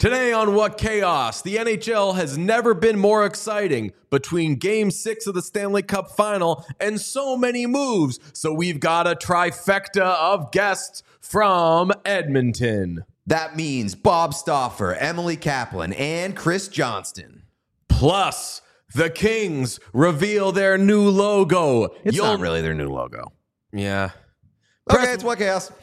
Today on What Chaos, the NHL has never been more exciting between Game 6 of the Stanley Cup Final and so many moves. So we've got a trifecta of guests from Edmonton. That means Bob Stauffer, Emily Kaplan, and Chris Johnston. Plus, the Kings reveal their new logo. It's not really their new logo. Yeah. Okay, it's What Chaos.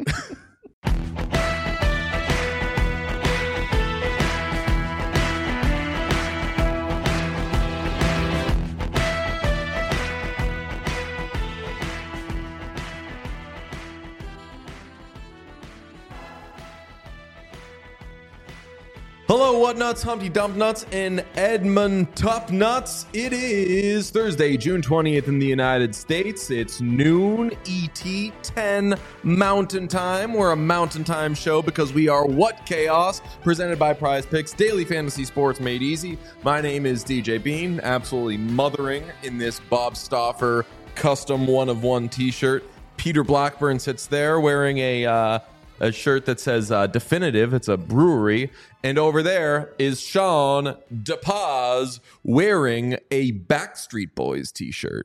Hello, what nuts, Humpty Dump Nuts, and Edmund Tup Nuts. It is Thursday, June 20th in the United States. It's noon ET 10 Mountain Time. We're a Mountain Time show because we are What Chaos, presented by Prize Picks, daily fantasy sports made easy. My name is DJ Bean, absolutely mothering in this Bob Stauffer custom one-of-one t-shirt. Peter Blackburn sits there wearing a shirt that says Definitive. It's a brewery. And over there is Sean DePaz wearing a Backstreet Boys t-shirt.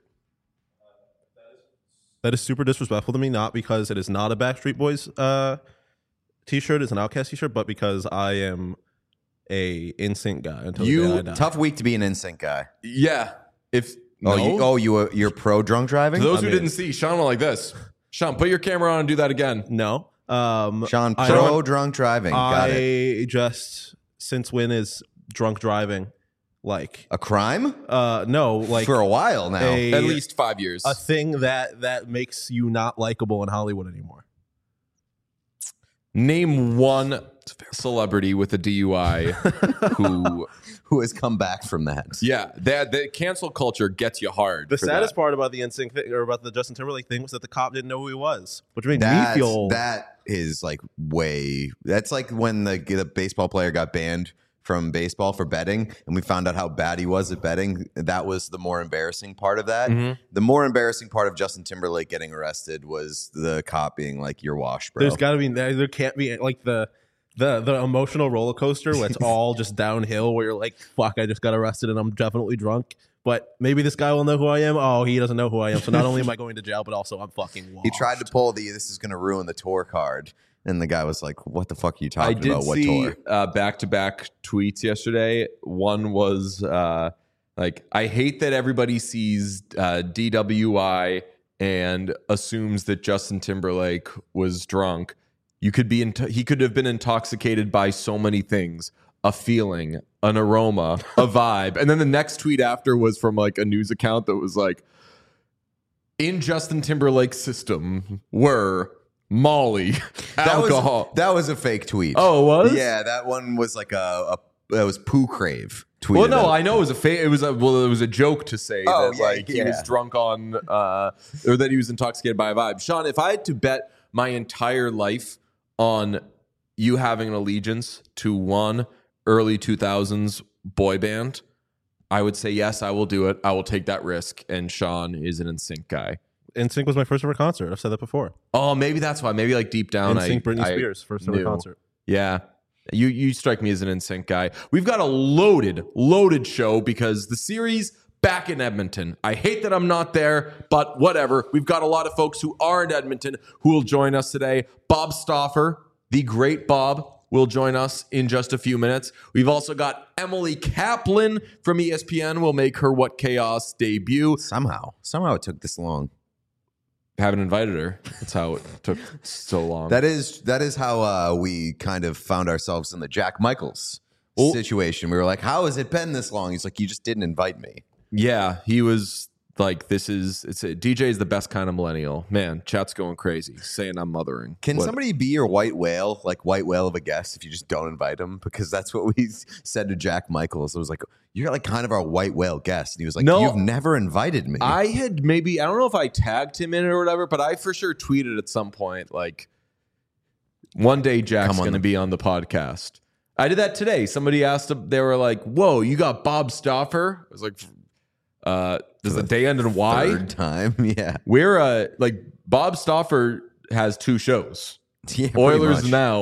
That is super disrespectful to me, not because it is not a Backstreet Boys t-shirt, it's an Outkast t-shirt, but because I am a NSYNC guy until the day I die. Tough week to be an NSYNC guy. Yeah. You're pro drunk driving? For those who didn't see, Sean went like this. Sean, put your camera on and do that again. No. Sean, pro drunk driving. Got it. Just, since when is drunk driving like A crime? no, like For a while now. At least 5 years. a thing that makes you not likable in Hollywood anymore. Name one celebrity with a DUI Who has come back from that? Yeah, the cancel culture gets you hard. The for saddest that. part about the NSYNC thing, or about the Justin Timberlake thing, was that the cop didn't know who he was, which made me feel That is like that's like when the baseball player got banned from baseball for betting, and we found out how bad he was at betting. That was the more embarrassing part of that. Mm-hmm. The more embarrassing part of Justin Timberlake getting arrested was the cop being like, "You're washed, bro." There's got to be there can't be like the emotional roller coaster where it's all just downhill, where you're like, fuck, I just got arrested and I'm definitely drunk, but maybe this guy will know who I am. Oh, he doesn't know who I am, so not only am I going to jail, but also I'm fucking washed. He tried to pull this is going to ruin the tour card. And the guy was like, what the fuck are you talking about? What see tour? Back-to-back tweets yesterday. One was like, I hate that everybody sees DWI and assumes that Justin Timberlake was drunk. He could have been intoxicated by so many things: a feeling, an aroma, a vibe. And then the next tweet after was from like a news account that was like, in Justin Timberlake's system were Molly, alcohol. That was a fake tweet. Oh, it was? Yeah, that one was like that was Pooh Crave tweeted. Well, no, it. I know it was a fake. It was a joke to say that he was drunk on or that he was intoxicated by a vibe. Sean, if I had to bet my entire life on you having an allegiance to one early 2000s boy band, I would say yes, I will do it. I will take that risk. And Sean is an NSYNC guy. NSYNC was my first ever concert. I've said that before. Oh, maybe that's why. Maybe like deep down, NSYNC, Britney Spears, first ever concert. Yeah. You strike me as an NSYNC guy. We've got a loaded show because the series back in Edmonton. I hate that I'm not there, but whatever. We've got a lot of folks who are in Edmonton who will join us today. Bob Stauffer, the great Bob, will join us in just a few minutes. We've also got Emily Kaplan from ESPN will make her What Chaos debut. Somehow it took this long. Haven't invited her. That's how it took so long. That is how we kind of found ourselves in the Jack Michaels situation. We were like, how has it been this long? He's like, you just didn't invite me. Yeah, he was like, DJ is the best kind of millennial. Man, chat's going crazy, saying I'm mothering. Can somebody be your white whale, like white whale of a guest, if you just don't invite him? Because that's what we said to Jack Michaels. It was like, you're like kind of our white whale guest. And he was like, no, you've never invited me. I don't know if I tagged him in it or whatever, but I for sure tweeted at some point, like, one day Jack's going to be on the podcast. I did that today. Somebody asked, they were like, whoa, you got Bob Stauffer? I was like, does the day end in Y? Third time, yeah. We're like Bob Stauffer has two shows. Yeah, Oilers Now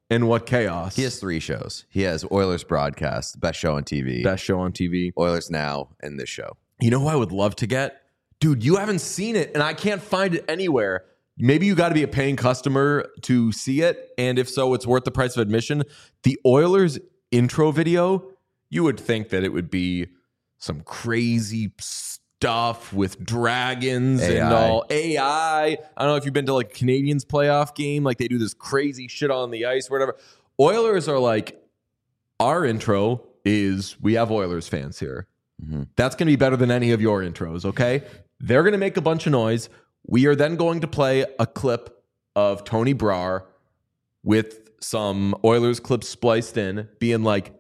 And what chaos? He has 3 shows. He has Oilers Broadcast, best show on TV, Best show on TV. Oilers Now, and this show. You know who I would love to get? Dude, you haven't seen it, and I can't find it anywhere. Maybe you got to be a paying customer to see it, and if so, it's worth the price of admission. The Oilers intro video, you would think that it would be some crazy stuff with dragons and all AI. I don't know if you've been to like a Canadians playoff game, like they do this crazy shit on the ice, whatever. Oilers are like, our intro is, we have Oilers fans here. Mm-hmm. That's going to be better than any of your intros, okay? They're going to make a bunch of noise. We are then going to play a clip of Tony Brar with some Oilers clips spliced in, being like,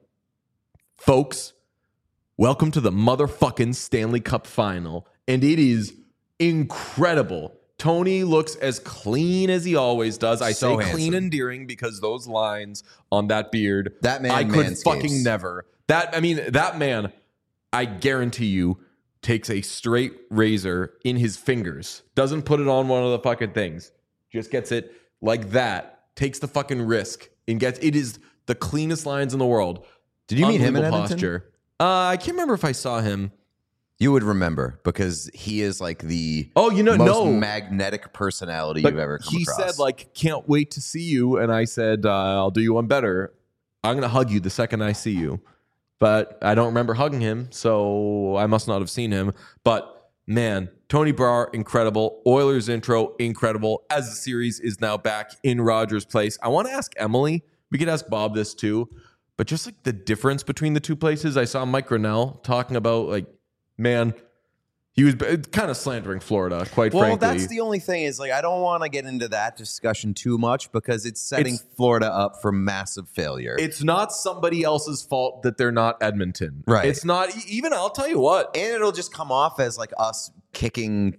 folks, welcome to the motherfucking Stanley Cup final. And it is incredible. Tony looks as clean as he always does. I say handsome. Clean and endearing because those lines on that beard, That man I could manscapes. fucking never. That man, I guarantee you, takes a straight razor in his fingers, doesn't put it on one of the fucking things, just gets it like that, takes the fucking risk, and gets it is the cleanest lines in the world. Did you meet him in Unbelievable Edmonton? posture. I can't remember if I saw him. You would remember because he is like the most magnetic personality But you've ever come he across. said, like, can't wait to see you. And I said, I'll do you one better. I'm going to hug you the second I see you. But I don't remember hugging him, so I must not have seen him. But, man, Tony Brar, incredible. Oilers intro, incredible. As the series is now back in Rogers Place. I want to ask Emily. We could ask Bob this too. But just, like, the difference between the two places. I saw Mike Grinnell talking about, like, man, he was kind of slandering Florida, quite frankly. Well, that's the only thing is, like, I don't want to get into that discussion too much because it's setting Florida up for massive failure. It's not somebody else's fault that they're not Edmonton. Right. It's not even, I'll tell you what. And it'll just come off as like us kicking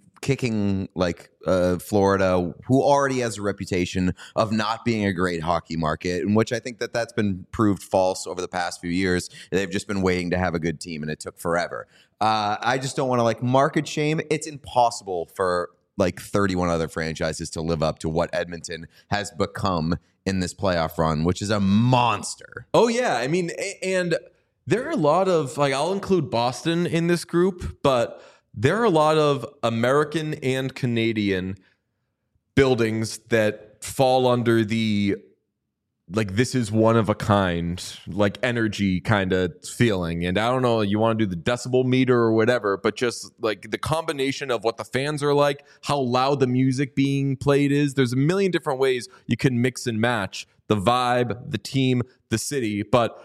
like Florida, who already has a reputation of not being a great hockey market, in which I think that's been proved false over the past few years. They've just been waiting to have a good team, and it took forever. I just don't want to like market shame. It's impossible for like 31 other franchises to live up to what Edmonton has become in this playoff run, which is a monster. Oh, yeah. I mean, and there are a lot of, like, I'll include Boston in this group, but there are a lot of American and Canadian buildings that fall under the, like, this is one of a kind, like, energy kind of feeling. And I don't know, you want to do the decibel meter or whatever, but just like the combination of what the fans are like, how loud the music being played is. There's a million different ways you can mix and match the vibe, the team, the city. But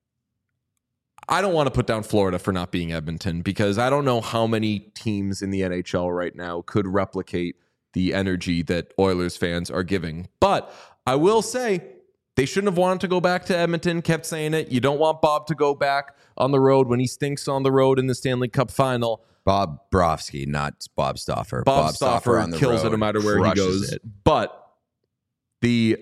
I don't want to put down Florida for not being Edmonton because I don't know how many teams in the NHL right now could replicate the energy that Oilers fans are giving. But I will say, they shouldn't have wanted to go back to Edmonton, kept saying it. You don't want Bob to go back on the road when he stinks on the road in the Stanley Cup final. Bob Brovsky, not Bob Stauffer. Bob Stauffer on the kills road it no matter where he crushes goes. it. But the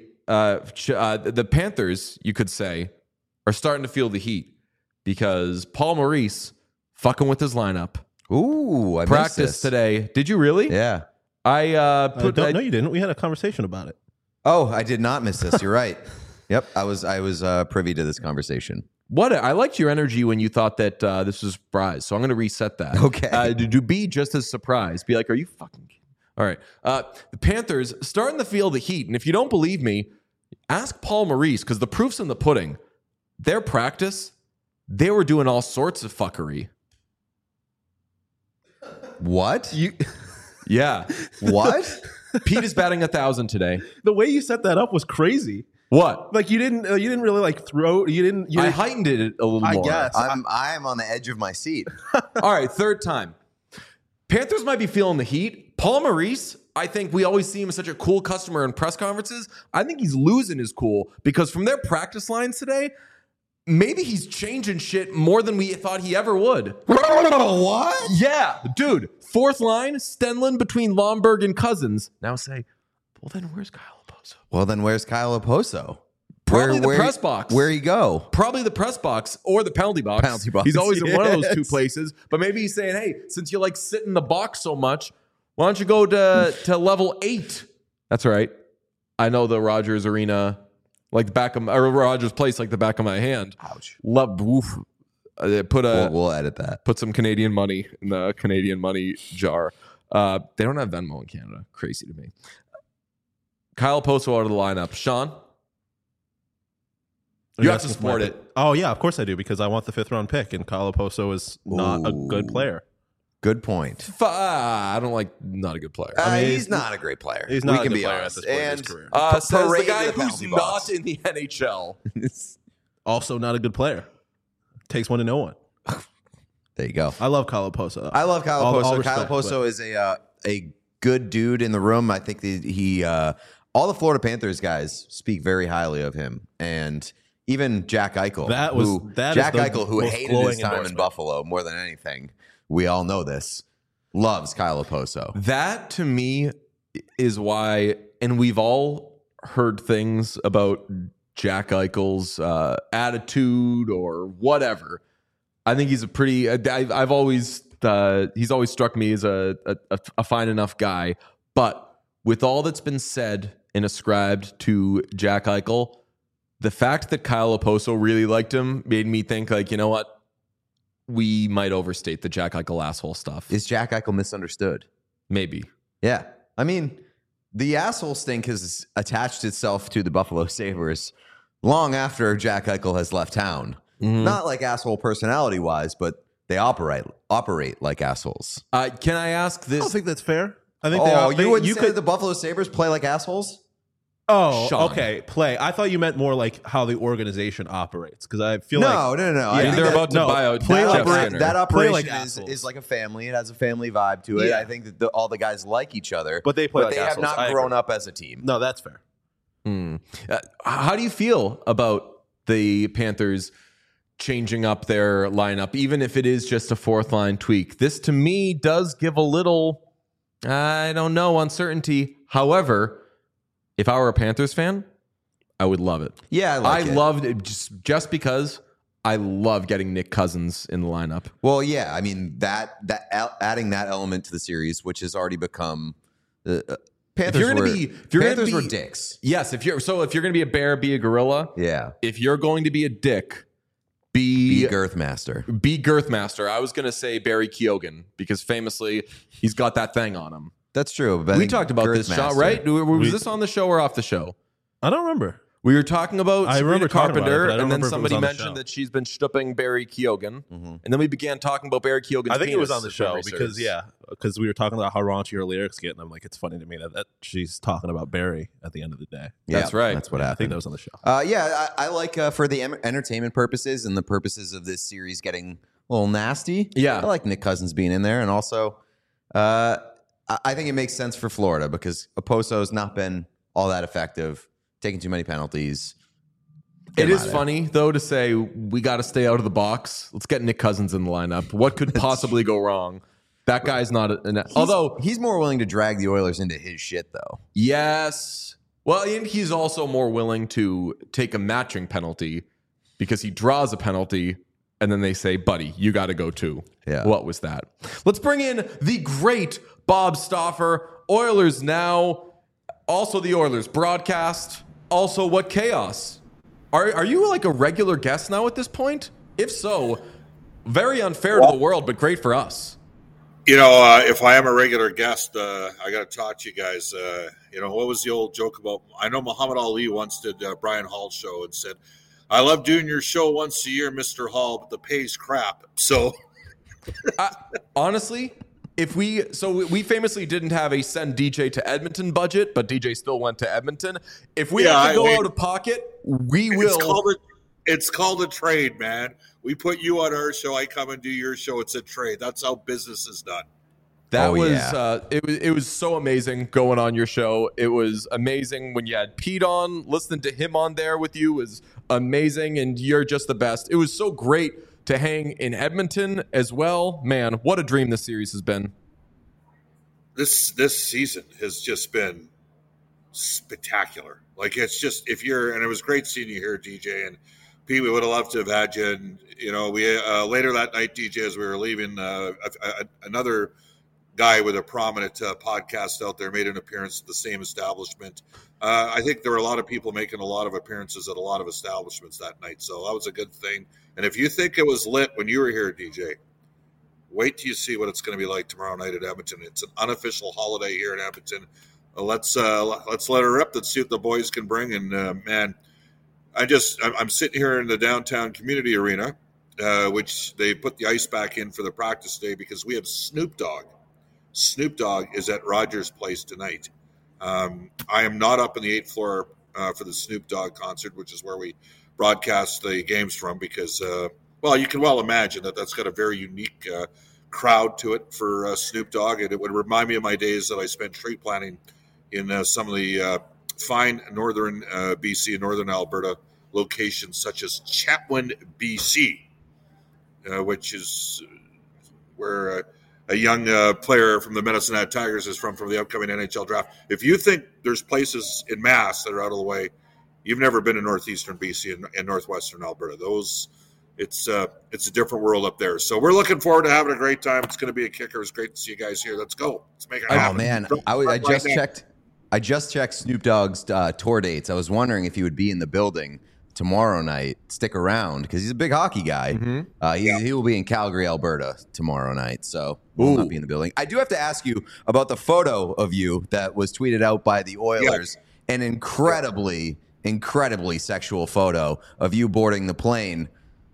Panthers, you could say, are starting to feel the heat because Paul Maurice fucking with his lineup. Ooh, I missed Practice this. today. Did you really? Yeah. No, you didn't. We had a conversation about it. Oh, I did not miss this. You're right. Yep, I was privy to this conversation. I liked your energy when you thought that this was a surprise, so I'm going to reset that. Okay. To be just as surprised. Be like, are you fucking kidding? All right. The Panthers starting to feel the heat, and if you don't believe me, ask Paul Maurice, because the proof's in the pudding. Their practice, they were doing all sorts of fuckery. What? Yeah. What? Pete is batting 1,000 today. The way you set that up was crazy. What? Like you didn't really like throw. You didn't. I heightened it a little I more. guess. I'm on the edge of my seat. All right, third time. Panthers might be feeling the heat. Paul Maurice, I think we always see him as such a cool customer in press conferences. I think he's losing his cool because from their practice lines today, maybe he's changing shit more than we thought he ever would. What? Yeah, dude. Fourth line, Stenlund between Lomberg and Cousins. Now say, well, then where's Kyle Oposo? Well, then where's Kyle Oposo? Probably the press box. Where'd he go? Probably the press box or the penalty box. Penalty box, He's always in one of those two yes. places. But maybe he's saying, hey, since you like sit in the box so much, why don't you go to level 8? That's right. I know the Rogers Arena like the back of or Rogers Place like the back of my hand. Ouch. Love. Oof. We'll edit that. Put some Canadian money in the Canadian money jar. They don't have Venmo in Canada. Crazy to me. Kyle Poso out of the lineup. Sean, you have to support it. Oh yeah, of course I do, because I want the 5th round pick, and Kyle Poso is not a good player. Good point. I don't like not a good player. I mean, he's not a great player. He's not we a can good be player honest. at this point in his And career. Says the parade guy in the who's penalty not box. in the NHL. Also not a good player. Takes one to know one. There you go. I love Kyle Poso. I love Kyle All Poso. respect, Kyle Poso is a good dude in the room. I think that he all the Florida Panthers guys speak very highly of him, and even Jack Eichel. Jack Eichel, who hated his time in Buffalo more than anything. We all know this. Loves Kyle Poso. That to me is why, and we've all heard things about Jack Eichel's attitude or whatever. I think he's a pretty. I've always he's always struck me as a fine enough guy. But with all that's been said and ascribed to Jack Eichel, the fact that Kyle Poso really liked him made me think, like, you know what? We might overstate the Jack Eichel asshole stuff. Is Jack Eichel misunderstood? Maybe. Yeah. I mean, the asshole stink has attached itself to the Buffalo Sabres long after Jack Eichel has left town. Mm-hmm. Not like asshole personality wise, but they operate like assholes. Can I ask this? I don't think that's fair. I think you wouldn't say the Buffalo Sabres play like assholes? Oh, Sean. okay. Play. I thought you meant more like how the organization operates, because I feel No. I they're think about to buy out play Jeff like- Skinner. that Play operation like is assholes. like a family. It has a family vibe to it. Yeah. I think that all the guys like each other, But they play like they have assholes. not I grown agree. up as a team. No, that's fair. How do you feel about the Panthers changing up their lineup, even if it is just a 4th line tweak? This to me does give a little, I don't know, uncertainty. However, if I were a Panthers fan, I would love it. Yeah, I loved it just because I love getting Nick Cousins in the lineup. Well, yeah, I mean that adding that element to the series, which has already become Panthers were dicks. Yes, if you're going to be a bear, be a gorilla. Yeah, If you're going to be a dick, be Girthmaster. Be Girthmaster. I was going to say Barry Keoghan because famously he's got that thing on him. That's true. But I We think talked about this, Sean, Girthmaster- right? Was this on the show or off the show? I don't remember. We were talking about I Sabrina remember talking about it, Carpenter, but I don't and then remember if it was somebody on the mentioned show. that she's been stooping Barry Keoghan, Mhm. and then we began talking about Barry Keoghan's I think it was penis, on the if show memory because serves. we were talking about how raunchy her lyrics get, and I'm like, it's funny to me that she's talking about Barry at the end of the day. Yeah, That's right. That's what I think happened. that was on the show. I like for the entertainment purposes and the purposes of this series getting a little nasty. Yeah. I like Nick Cousins being in there, and also I think it makes sense for Florida because Oposo's not been all that effective, taking too many penalties. It Get him is out of funny, though, to say we got to stay out of the box. Let's get Nick Cousins in the lineup. What could possibly go wrong? That guy's not although he's more willing to drag the Oilers into his shit, though. yes. Well, and he's also more willing to take a matching penalty because he draws a penalty and then they say, buddy, you got to go too. Yeah. What was that? Let's bring in the great Bob Stauffer. Oilers Now. Also the Oilers broadcast. Also What Chaos. Are you like a regular guest now at this point? If so, very unfair to the world, but great for us. You know, if I am a regular guest, I got to talk to you guys. What was the old joke about? I know Muhammad Ali once did Brian Hall's show and said, I love doing your show once a year, Mr. Hall, but the pay's crap. So, Honestly, we famously didn't have a send DJ to Edmonton budget, but DJ still went to Edmonton. If we have to go out of pocket, we will. It's called a trade, man. We put you on our show. I come and do your show. It's a trade. That's how business is done. That it was so amazing going on your show. It was amazing when you had Pete on. Listening to him on there with you was amazing, and you're just the best. It was so great to hang in Edmonton as well. Man, what a dream this series has been. This season has just been spectacular. Like, it's just, and it was great seeing you here, DJ, and Pete, we would have loved to have had you. And, we later that night, DJ, as we were leaving, another guy with a prominent podcast out there made an appearance at the same establishment. I think there were a lot of people making a lot of appearances at a lot of establishments that night, so that was a good thing. And if you think it was lit when you were here, DJ, wait till you see what it's going to be like tomorrow night at Edmonton. It's an unofficial holiday here in Edmonton. Let's let her rip. Let's see what the boys can bring. And man, I'm sitting here in the downtown community arena, which they put the ice back in for the practice day because we have Snoop Dogg. Snoop Dogg is at Rogers Place tonight. I am not up in the 8th floor for the Snoop Dogg concert, which is where we broadcast the games from because, well, you can well imagine that that's got a very unique crowd to it for Snoop Dogg. And it would remind me of my days that I spent tree planting in some of the fine northern BC and northern Alberta locations such as Chetwynd, BC, which is where a young player from the Medicine Hat Tigers is from the upcoming NHL draft. If you think there's places in Mass that are out of the way, you've never been in northeastern BC and northwestern Alberta. It's a different world up there. So we're looking forward to having a great time. It's going to be a kicker. It's great to see you guys here. Let's go. Let's make it happen. Oh man, I just checked Snoop Dogg's tour dates. I was wondering if he would be in the building tomorrow night. Stick around because he's a big hockey guy. He will be in Calgary, Alberta tomorrow night. So will not be in the building. I do have to ask you about the photo of you that was tweeted out by the Oilers. Yeah. An incredibly sexual photo of you boarding the plane.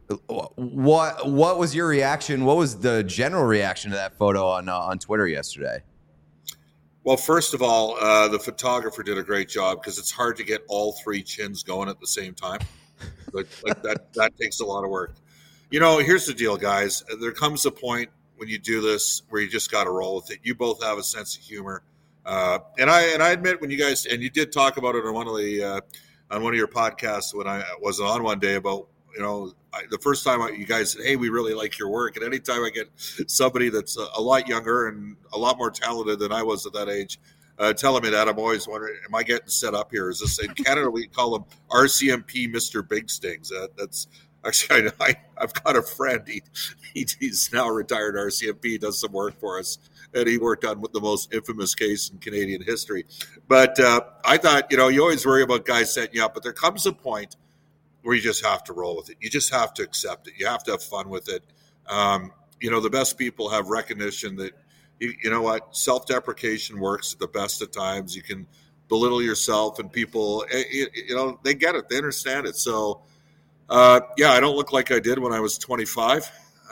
What was your reaction? What was the general reaction to that photo on Twitter yesterday? Well, first of all, the photographer did a great job because it's hard to get all three chins going at the same time. Like that takes a lot of work. You know, here's the deal, guys. There comes a point when you do this where you just got to roll with it. You both have a sense of humor, and I admit when you guys and you did talk about it on one of your podcasts when I was on one day about the first time you guys said, hey, we really like your work. And anytime I get somebody that's a lot younger and a lot more talented than I was at that age telling me that, I'm always wondering, am I getting set up here? Is this in Canada? We call him RCMP Mr. Big Stings. That's actually, I've got a friend. He's now a retired RCMP. He does some work for us. And he worked on the most infamous case in Canadian history. But I thought, you always worry about guys setting you up. But there comes a point where you just have to roll with it. You just have to accept it. You have to have fun with it. The best people have recognition that, you know what, self-deprecation works at the best of times. You can belittle yourself and people, they get it. They understand it. So, I don't look like I did when I was 25.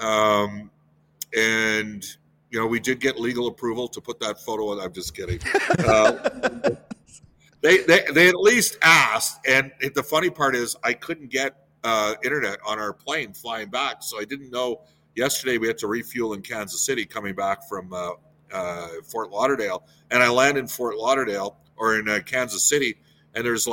We did get legal approval to put that photo on. I'm just kidding. They at least asked, and the funny part is I couldn't get internet on our plane flying back, so I didn't know. Yesterday we had to refuel in Kansas City coming back from Fort Lauderdale, and I landed in Fort Lauderdale or in Kansas City, and there's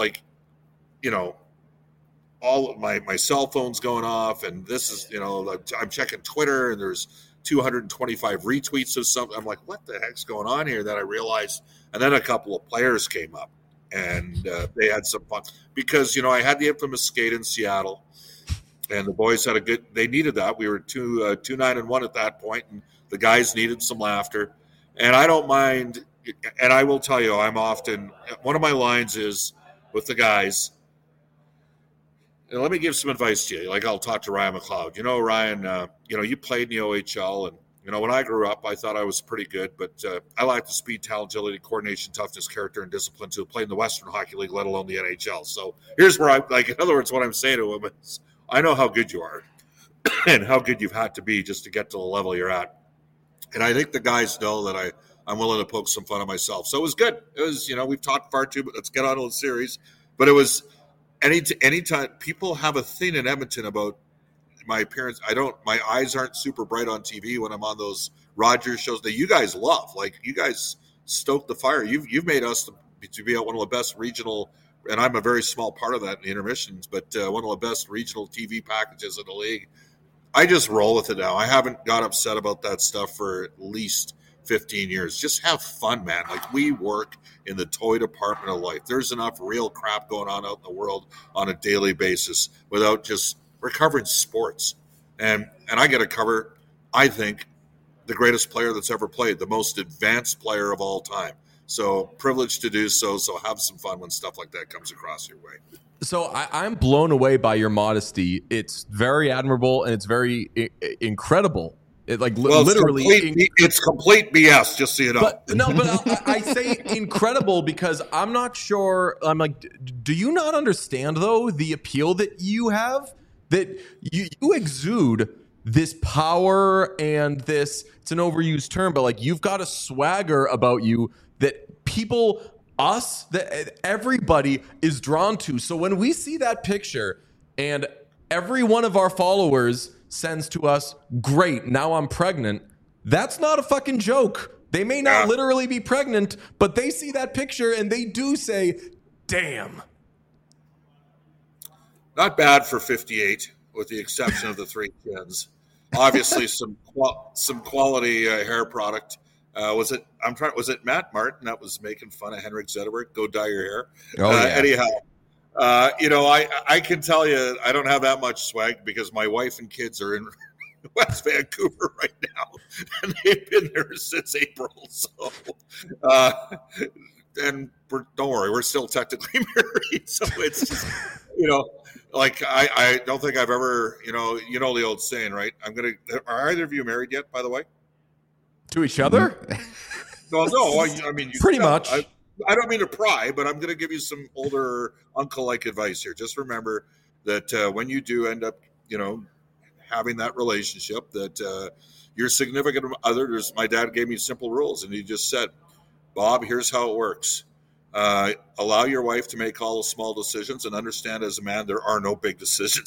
all of my cell phone's going off, and this is I'm checking Twitter, and there's 225 retweets of something. I'm like, what the heck's going on here? Then I realized, and then a couple of players came up. And they had some fun because, I had the infamous skate in Seattle and the boys had they needed that. We were 2-9-1 at that point, and the guys needed some laughter. And I don't mind. And I will tell you, one of my lines is with the guys. And let me give some advice to you. Like I'll talk to Ryan McLeod. Ryan, you played in the OHL and, when I grew up, I thought I was pretty good, but I lacked the speed, talent, agility, coordination, toughness, character, and discipline to play in the Western Hockey League, let alone the NHL. So here's where in other words, what I'm saying to him is, I know how good you are and how good you've had to be just to get to the level you're at. And I think the guys know that I'm willing to poke some fun at myself. So it was good. It was, we've talked far too, but let's get on to the series. But it was anytime people have a thing in Edmonton about my appearance. My eyes aren't super bright on TV when I'm on those Rogers shows that you guys love. Like you guys stoke the fire. You've made us to be at one of the best regional, and I'm a very small part of that in the intermissions, but one of the best regional TV packages in the league. I just roll with it now. I haven't got upset about that stuff for at least 15 years. Just have fun, man. Like we work in the toy department of life. There's enough real crap going on out in the world on a daily basis without just we're covering sports, and I got to cover, I think, the greatest player that's ever played, the most advanced player of all time. So privileged to do so. So have some fun when stuff like that comes across your way. So I'm blown away by your modesty. It's very admirable and it's very incredible. It literally, it's complete BS. Just so you know. But I say incredible because I'm not sure. I'm like, do you not understand though the appeal that you have? That you exude this power and this. It's an overused term, but like you've got a swagger about you that people. Us, that everybody is drawn to. So when we see that picture and every one of our followers sends to us, great, now I'm pregnant, that's not a fucking joke. They may not literally be pregnant, but they see that picture and they do say, damn. Not bad for 58, with the exception of the 3 kids. Obviously, some quality hair product. Was it Matt Martin that was making fun of Henrik Zetterberg? Go dye your hair. Anyhow, I can tell you I don't have that much swag because my wife and kids are in West Vancouver right now, and they've been there since April. So, and don't worry, we're still technically married. So it's just, like I don't think I've ever, you know the old saying, right? Are either of you married yet, by the way? To each other? No. I mean, pretty much. I don't mean to pry, but I'm going to give you some older uncle-like advice here. Just remember that when you do end up, having that relationship, that your significant other. My dad gave me simple rules, and he just said, "Bob, here's how it works. Allow your wife to make all the small decisions, and understand as a man there are no big decisions."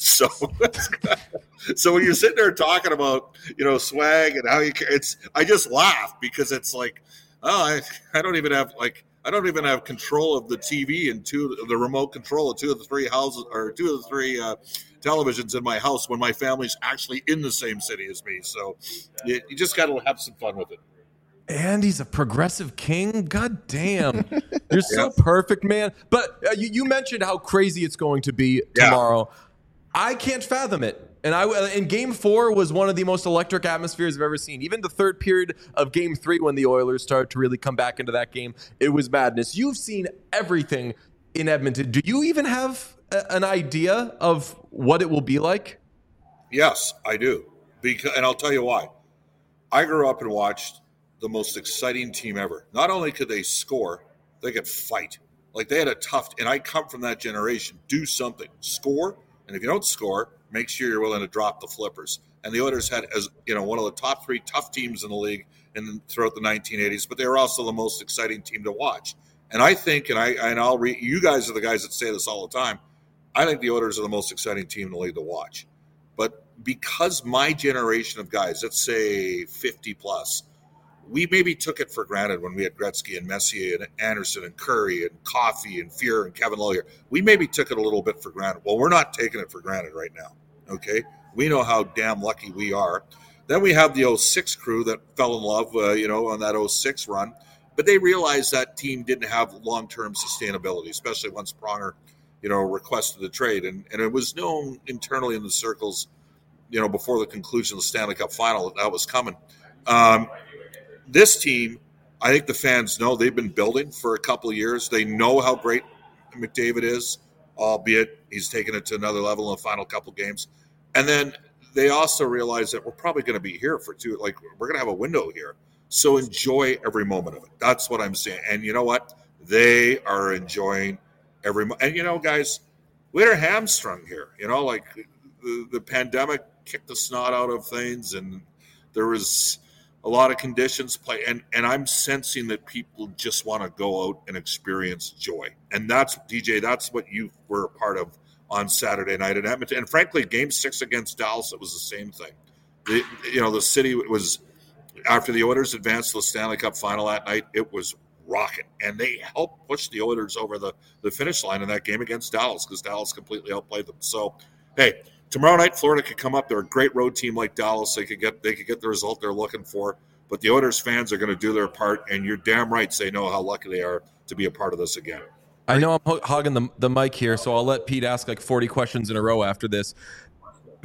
So when you're sitting there talking about swag and how I just laugh because it's like, I don't even have control of the TV and the remote control of 2 of the 3 houses or 2 of the 3 televisions in my house when my family's actually in the same city as me. So you just got to have some fun with it. And he's a progressive king. God damn. You're so perfect, man. But you mentioned how crazy it's going to be tomorrow. I can't fathom it. And Game 4 was one of the most electric atmospheres I've ever seen. Even the third period of Game 3, when the Oilers started to really come back into that game, it was madness. You've seen everything in Edmonton. Do you even have an idea of what it will be like? Yes, I do. And I'll tell you why. I grew up and watched the most exciting team ever. Not only could they score, they could fight. Like they had a tough, and I come from that generation. Do something, score, and if you don't score, make sure you're willing to drop the flippers. And the Oilers had, as one of the top 3 tough teams in the league throughout the 1980s, but they were also the most exciting team to watch. And I think, I'll read. You guys are the guys that say this all the time. I think the Oilers are the most exciting team in the league to watch. But because my generation of guys, let's say 50 plus, we maybe took it for granted when we had Gretzky and Messier and Anderson and Curry and Coffey and Fuhr and Kevin Lowe here. We maybe took it a little bit for granted. Well, we're not taking it for granted right now, okay? We know how damn lucky we are. Then we have the 06 crew that fell in love, on that 06 run. But they realized that team didn't have long-term sustainability, especially once Pronger, requested the trade. And it was known internally in the circles, before the conclusion of the Stanley Cup final that was coming. This team, I think the fans know they've been building for a couple of years. They know how great McDavid is, albeit he's taken it to another level in the final couple of games. And then they also realize that we're probably going to be here for we're going to have a window here. So enjoy every moment of it. That's what I'm saying. And you know what? They are enjoying every moment. And, guys, we're hamstrung here. The pandemic kicked the snot out of things, and there was a lot of conditions play, and I'm sensing that people just want to go out and experience joy. And that's, DJ, that's what you were a part of on Saturday night in Edmonton. And frankly, Game 6 against Dallas, it was the same thing. The city was, after the Oilers advanced to the Stanley Cup final that night, it was rocking. And they helped push the Oilers over the finish line in that game against Dallas because Dallas completely outplayed them. So, hey, tomorrow night, Florida could come up. They're a great road team like Dallas. They could get the result they're looking for. But the Oilers fans are going to do their part, and you're damn right they know how lucky they are to be a part of this again. I know I'm hogging the mic here, so I'll let Pete ask like 40 questions in a row after this.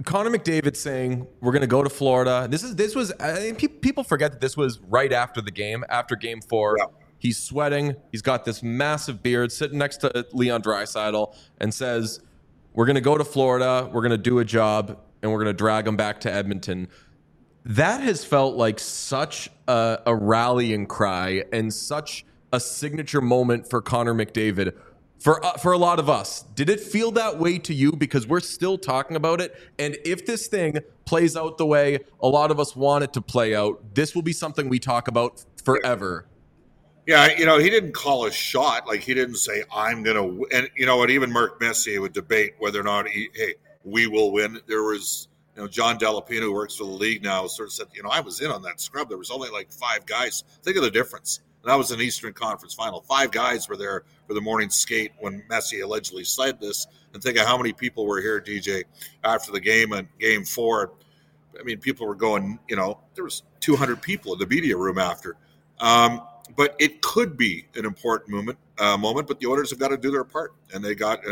Connor McDavid saying we're going to go to Florida. This was I think people forget that this was right after the game, after Game 4. Yeah. He's sweating. He's got this massive beard, sitting next to Leon Draisaitl, and says, "We're going to go to Florida. We're going to do a job, and we're going to drag him back to Edmonton." That has felt like such a rallying cry and such a signature moment for Connor McDavid. For a lot of us, did it feel that way to you? Because we're still talking about it. And if this thing plays out the way a lot of us want it to play out, this will be something we talk about forever. Yeah, he didn't call a shot. Like, he didn't say, I'm going to – and, what even Mark Messier would debate whether or not, we will win. There was, John Delapino, who works for the league now, sort of said, I was in on that scrub. There was only like 5 guys. Think of the difference. And that was an Eastern Conference final. 5 guys were there for the morning skate when Messi allegedly said this. And think of how many people were here, DJ, after the game and Game 4. I mean, people were going, there was 200 people in the media room after. But it could be an important moment, but the Oilers have got to do their part. And they got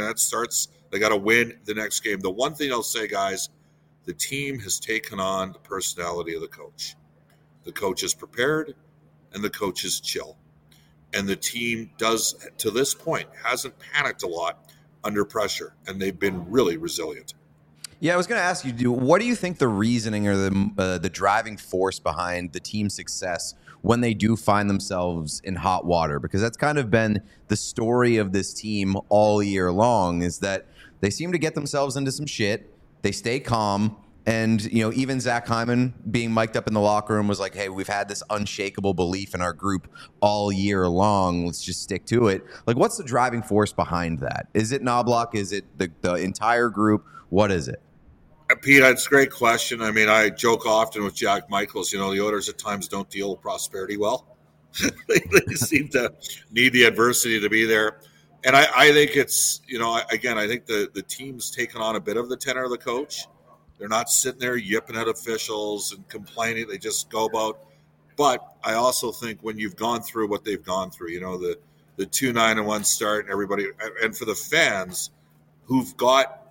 to win the next game. The one thing I'll say, guys, the team has taken on the personality of the coach. The coach is prepared. And the coach is chill. And the team does, to this point, hasn't panicked a lot under pressure. And they've been really resilient. Yeah, I was going to ask you, what do you think the reasoning or the driving force behind the team's success when they do find themselves in hot water? Because that's kind of been the story of this team all year long, is that they seem to get themselves into some shit. They stay calm. And, even Zach Hyman being mic'd up in the locker room was like, hey, we've had this unshakable belief in our group all year long. Let's just stick to it. Like, what's the driving force behind that? Is it Knoblauch? Is it the entire group? What is it? Pete, it's a great question. I mean, I joke often with Jack Michaels, the Oilers at times don't deal with prosperity well. They seem to need the adversity to be there. And I think it's, I think the team's taken on a bit of the tenor of the coach. They're not sitting there yipping at officials and complaining. They just go about. But I also think when you've gone through what they've gone through, the 2-9-1 start and everybody, and for the fans who've got,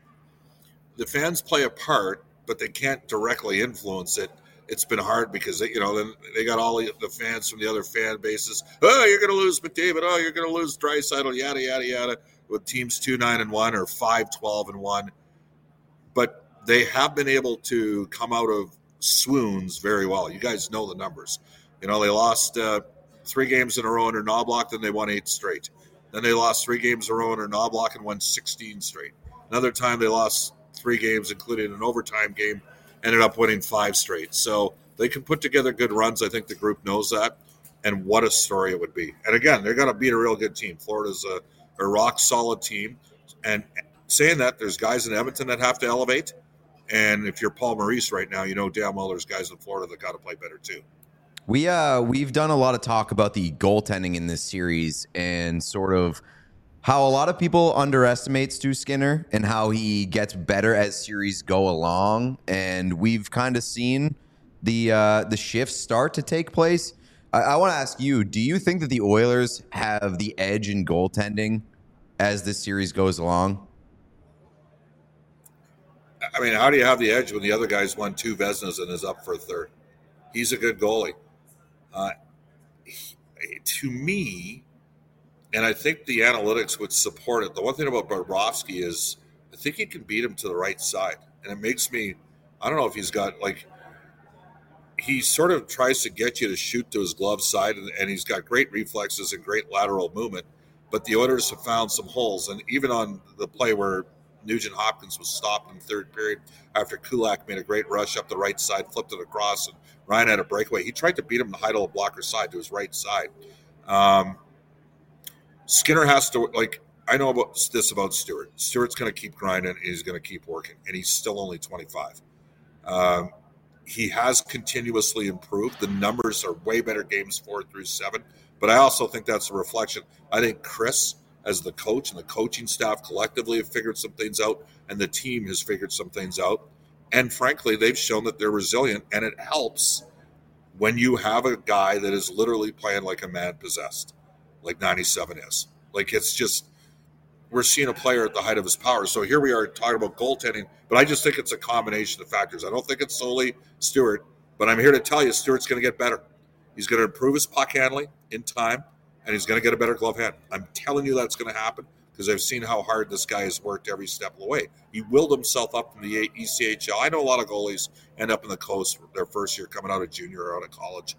the fans play a part, but they can't directly influence it. It's been hard because then they got all the fans from the other fan bases. Oh, you're going to lose McDavid. Oh, you're going to lose Draisaitl. Yada yada yada. With teams 2-9-1 or 5-12-1, but they have been able to come out of swoons very well. You guys know the numbers. They lost 3 games in a row under Knoblauch, then they won 8 straight. Then they lost 3 games in a row under Knoblauch and won 16 straight. Another time they lost 3 games, including an overtime game, ended up winning 5 straight. So they can put together good runs. I think the group knows that. And what a story it would be. And again, they're going to beat a real good team. Florida's a rock-solid team. And saying that, there's guys in Edmonton that have to elevate. And if you're Paul Maurice right now, damn well there's guys in Florida that got to play better too. We've done a lot of talk about the goaltending in this series and sort of how a lot of people underestimate Stu Skinner and how he gets better as series go along. And we've kind of seen the shifts start to take place. I want to ask you, do you think that the Oilers have the edge in goaltending as this series goes along? I mean, how do you have the edge when the other guy's won 2 Vezinas and is up for a 3rd? He's a good goalie. To me, and I think the analytics would support it, the one thing about Bobrovsky is I think he can beat him to the right side. And it makes me, I don't know if he's got, he sort of tries to get you to shoot to his glove side, and he's got great reflexes and great lateral movement. But the Oilers have found some holes. And even on the play where Nugent Hopkins was stopped in the 3rd period after Kulak made a great rush up the right side, flipped it across, and Ryan had a breakaway. He tried to beat him to Heidel blocker side to his right side. Skinner has to, I know about this about Stewart. Stewart's going to keep grinding, and he's going to keep working, and he's still only 25. He has continuously improved. The numbers are way better games 4 through 7, but I also think that's a reflection. I think Chris, as the coach and the coaching staff collectively have figured some things out, and the team has figured some things out. And frankly, they've shown that they're resilient, and it helps when you have a guy that is literally playing like a man possessed, like 97 is. It's just, we're seeing a player at the height of his power. So here we are talking about goaltending, but I just think it's a combination of factors. I don't think it's solely Stewart, but I'm here to tell you Stewart's going to get better. He's going to improve his puck handling in time, and he's going to get a better glove hand. I'm telling you that's going to happen because I've seen how hard this guy has worked every step of the way. He willed himself up from the ECHL. I know a lot of goalies end up in the coast their first year coming out of junior or out of college,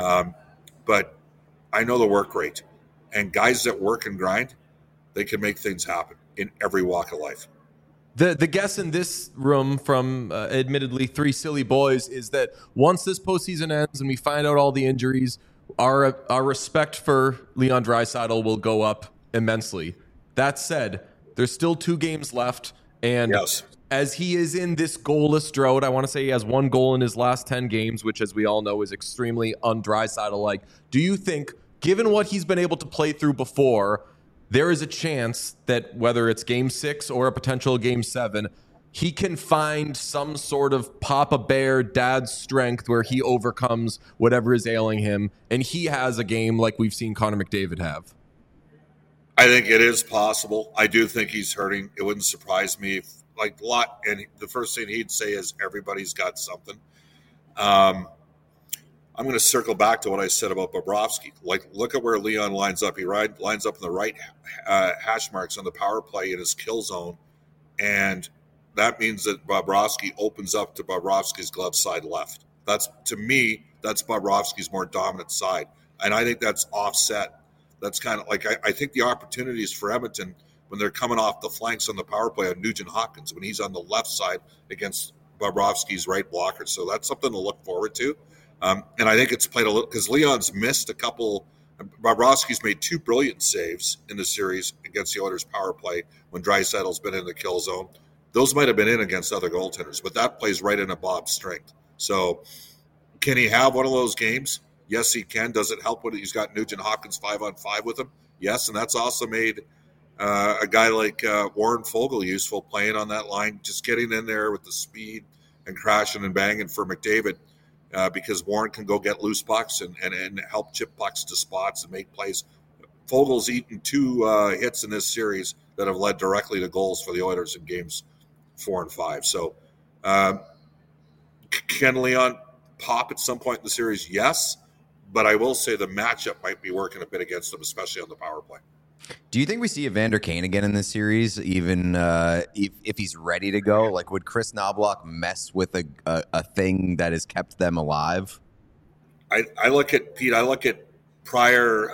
but I know the work rate. And guys that work and grind, they can make things happen in every walk of life. The guess in this room from admittedly three silly boys is that once this postseason ends and we find out all the injuries, our respect for Leon Draisaitl will go up immensely. That said, there's still 2 games left, and yes, as he is in this goalless drought, I want to say he has 1 goal in his last 10 games, which, as we all know, is extremely un-Draisaitl-like. Do you think, given what he's been able to play through before, there is a chance that whether it's game 6 or a potential game 7, he can find some sort of Papa Bear dad strength where he overcomes whatever is ailing him, and he has a game like we've seen Connor McDavid have? I think it is possible. I do think he's hurting. It wouldn't surprise me if, and the first thing he'd say is everybody's got something. I'm going to circle back to what I said about Bobrovsky. Look at where Leon lines up. He lines up in the right hash marks on the power play in his kill zone, and that means that Bobrovsky opens up to Bobrovsky's glove side left. To me, that's Bobrovsky's more dominant side, and I think that's offset. That's kind of I think the opportunities for Edmonton when they're coming off the flanks on the power play on Nugent Hopkins when he's on the left side against Bobrovsky's right blocker. So that's something to look forward to. And I think it's played a little because Leon's missed a couple. Bobrovsky's made 2 brilliant saves in the series against the Oilers' power play when Draisaitl's been in the kill zone. Those might have been in against other goaltenders, but that plays right into Bob's strength. So can he have one of those games? Yes, he can. Does it help when he's got Nugent Hopkins 5-on-5 with him? Yes, and that's also made a guy like Warren Fogle useful playing on that line, just getting in there with the speed and crashing and banging for McDavid. Because Warren can go get loose pucks and help chip pucks to spots and make plays. Fogel's eaten 2 hits in this series that have led directly to goals for the Oilers in games 4 and 5. So can Leon pop at some point in the series? Yes, but I will say the matchup might be working a bit against them, especially on the power play. Do you think we see Evander Kane again in this series, even if he's ready to go? Like, would Chris Knobloch mess with a thing that has kept them alive? I look at prior,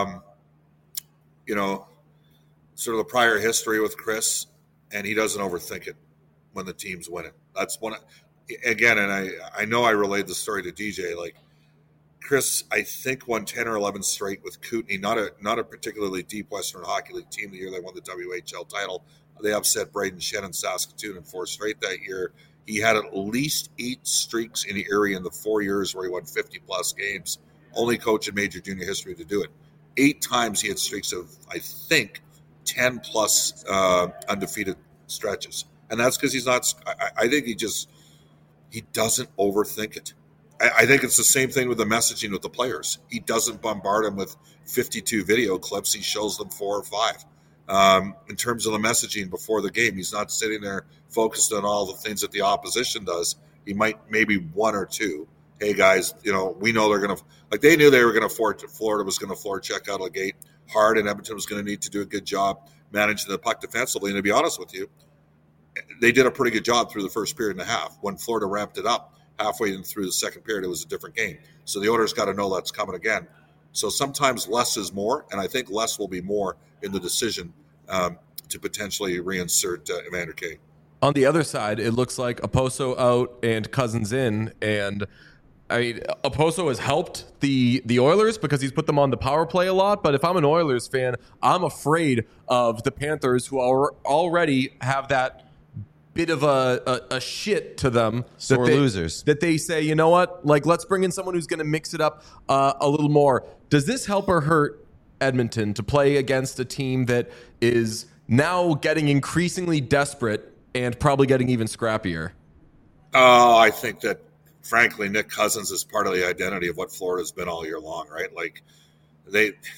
sort of the prior history with Chris, and he doesn't overthink it when the team's winning. That's one. Again, and I know I relayed the story to DJ, Chris, I think, won 10 or 11 straight with Kootenay, not a particularly deep Western Hockey League team the year they won the WHL title. They upset Braden Shen and Saskatoon in 4 straight that year. He had at least 8 streaks in Erie in the 4 years where he won 50-plus games. Only coach in major junior history to do it. 8 times he had streaks of, I think, 10-plus undefeated stretches. And that's because he's not – I think he doesn't overthink it. I think it's the same thing with the messaging with the players. He doesn't bombard them with 52 video clips. He shows them 4 or 5. In terms of the messaging before the game, he's not sitting there focused on all the things that the opposition does. He might maybe 1 or 2. Hey, guys, we know they're going to – they knew they were going to – Florida was going to floor check out of the gate hard, and Edmonton was going to need to do a good job managing the puck defensively. And to be honest with you, they did a pretty good job through the first period and a half. When Florida ramped it up, halfway through the second period, it was a different game. So the Oilers got to know that's coming again. So sometimes less is more, and I think less will be more in the decision to potentially reinsert Evander Kane. On the other side, it looks like Oposo out and Cousins in, and Oposo has helped the Oilers because he's put them on the power play a lot. But if I'm an Oilers fan, I'm afraid of the Panthers, who already have that bit of a shit to them. Sore losers. That they say, you know what, let's bring in someone who's going to mix it up a little more. Does this help or hurt Edmonton to play against a team that is now getting increasingly desperate and probably getting even scrappier? Oh, I think that, frankly, Nick Cousins is part of the identity of what Florida's been all year long, right?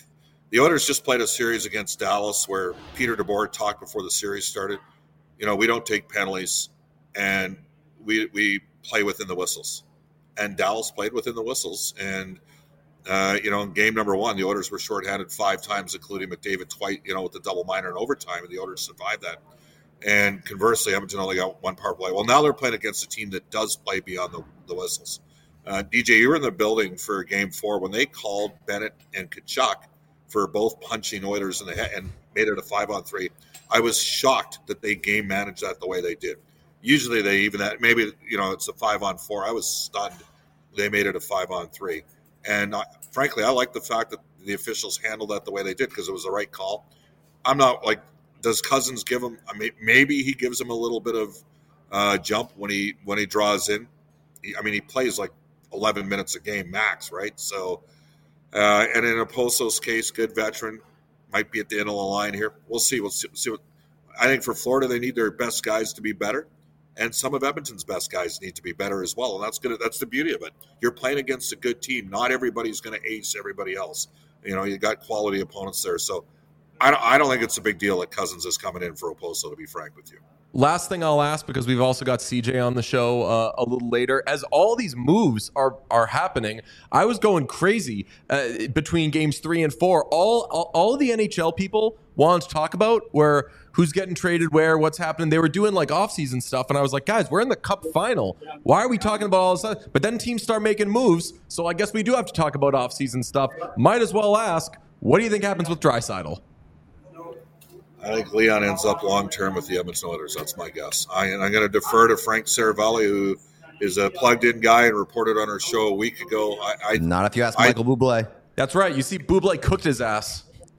The Oilers just played a series against Dallas where Peter DeBoer talked before the series started. We don't take penalties, and we play within the whistles. And Dallas played within the whistles. And, in game number one, the Oilers were shorthanded 5 times, including McDavid twice, with the double minor in overtime, and the Oilers survived that. And conversely, Edmonton only got 1 power play. Well, now they're playing against a team that does play beyond the whistles. DJ, you were in the building for game 4 when they called Bennett and Tkachuk for both punching Oilers in the head and made it a 5-on-3. I was shocked that they game managed that the way they did. Usually they even that maybe it's a 5-on-4. I was stunned they made it a 5-on-3, and frankly, I like the fact that the officials handled that the way they did because it was the right call. I'm not like, does Cousins give him? I mean, maybe he gives him a little bit of jump when he draws in. He plays like 11 minutes a game max, right? So, and in Oposo's case, good veteran, might be at the end of the line here. We'll see. We'll see what I think for Florida. They need their best guys to be better, and some of Edmonton's best guys need to be better as well. And that's the beauty of it. You're playing against a good team. Not everybody's going to ace everybody else. You got quality opponents there. So I don't think it's a big deal that Cousins is coming in for Oposo, to be frank with you. Last thing I'll ask, because we've also got CJ on the show a little later, as all these moves are happening, I was going crazy between games 3 and 4. All the NHL people wanted to talk about were who's getting traded where, what's happening. They were doing like off-season stuff, and I was like, guys, we're in the Cup final. Why are we talking about all this stuff? But then teams start making moves, so I guess we do have to talk about off-season stuff. Might as well ask, what do you think happens with Draisaitl? I think Leon ends up long-term with the Edmonton Oilers. That's my guess. I'm going to defer to Frank Saravalli, who is a plugged-in guy and reported on our show a week ago. Not if you ask Michael Bublé. That's right. You see, Bublé cooked his ass.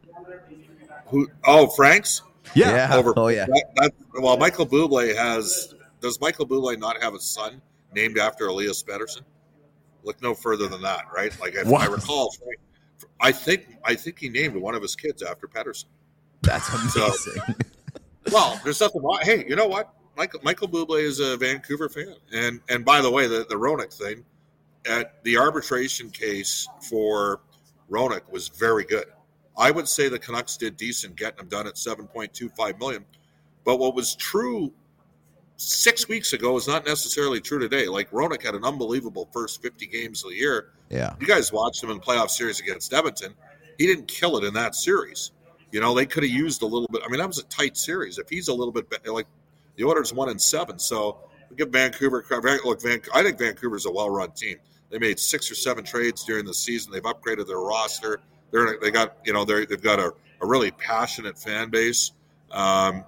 Frank's? Yeah. Well, Michael Bublé does Michael Bublé not have a son named after Elias Pettersson? Look no further than that, right? Like if I recall, I think he named one of his kids after Pettersson. That's amazing. Well, there's nothing wrong. Hey, you know what? Michael Bublé is a Vancouver fan. And by the way, the Roenick thing, at the arbitration case for Roenick was very good. I would say the Canucks did decent getting him done at $7.25 million. But what was true 6 weeks ago is not necessarily true today. Like Roenick had an unbelievable first 50 games of the year. Yeah. You guys watched him in the playoff series against Edmonton. He didn't kill it in that series. They could have used a little bit. I mean, that was a tight series. If he's a little bit better, like the Oilers 1-7, so we give Vancouver credit. Look, I think Vancouver's a well-run team. They made 6 or 7 trades during the season. They've upgraded their roster. They've got a really passionate fan base. They had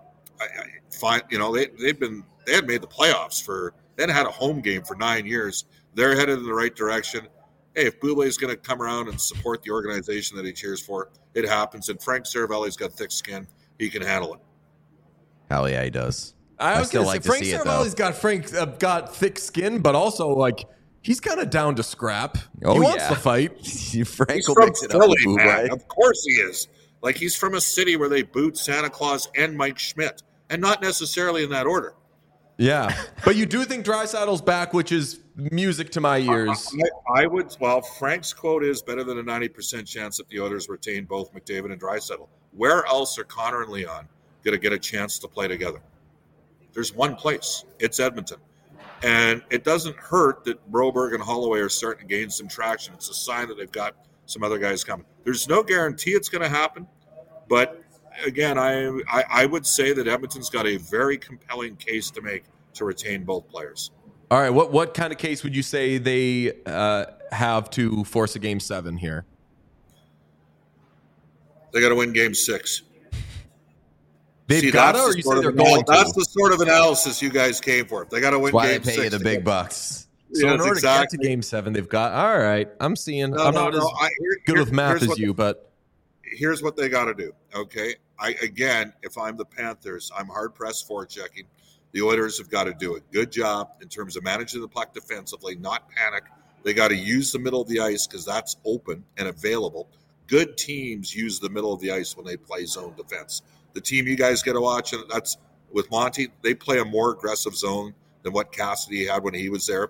made the playoffs they hadn't had a home game for 9 years. They're headed in the right direction. Hey, if Bublé is going to come around and support the organization that he cheers for, it happens. And Frank Saravalli's got thick skin; he can handle it. Hell yeah, he does. I was going to say Frank Saravalli's got thick skin, but also like he's kind of down to scrap. He wants to fight. Frank will from mix it Philly, up with man. Of course he is. Like he's from a city where they boot Santa Claus and Mike Schmidt, and not necessarily in that order. Yeah, but you do think Draisaitl's back, which is music to my ears. I would. Well, Frank's quote is better than a 90% chance that the Oilers retain both McDavid and Draisaitl. Where else are Connor and Leon going to get a chance to play together? There's one place. It's Edmonton. And it doesn't hurt that Broberg and Holloway are starting to gain some traction. It's a sign that they've got some other guys coming. There's no guarantee it's going to happen. But, again, I would say that Edmonton's got a very compelling case to make to retain both players. All right, what kind of case would you say they have to force a Game 7 here? They got to win Game 6. They've got to, or you say they're going to? That's the sort of analysis you guys came for. They got to win Game 6. Why they pay you the big bucks. So in order to get to Game 7, they've got. All right, I'm seeing. I'm not as good with math as you, but here's what they got to do. Okay, if I'm the Panthers, I'm hard pressed for checking. The Oilers have got to do a good job in terms of managing the puck defensively, not panic. They got to use the middle of the ice because that's open and available. Good teams use the middle of the ice when they play zone defense. The team you guys get to watch, and that's with Monty, they play a more aggressive zone than what Cassidy had when he was there.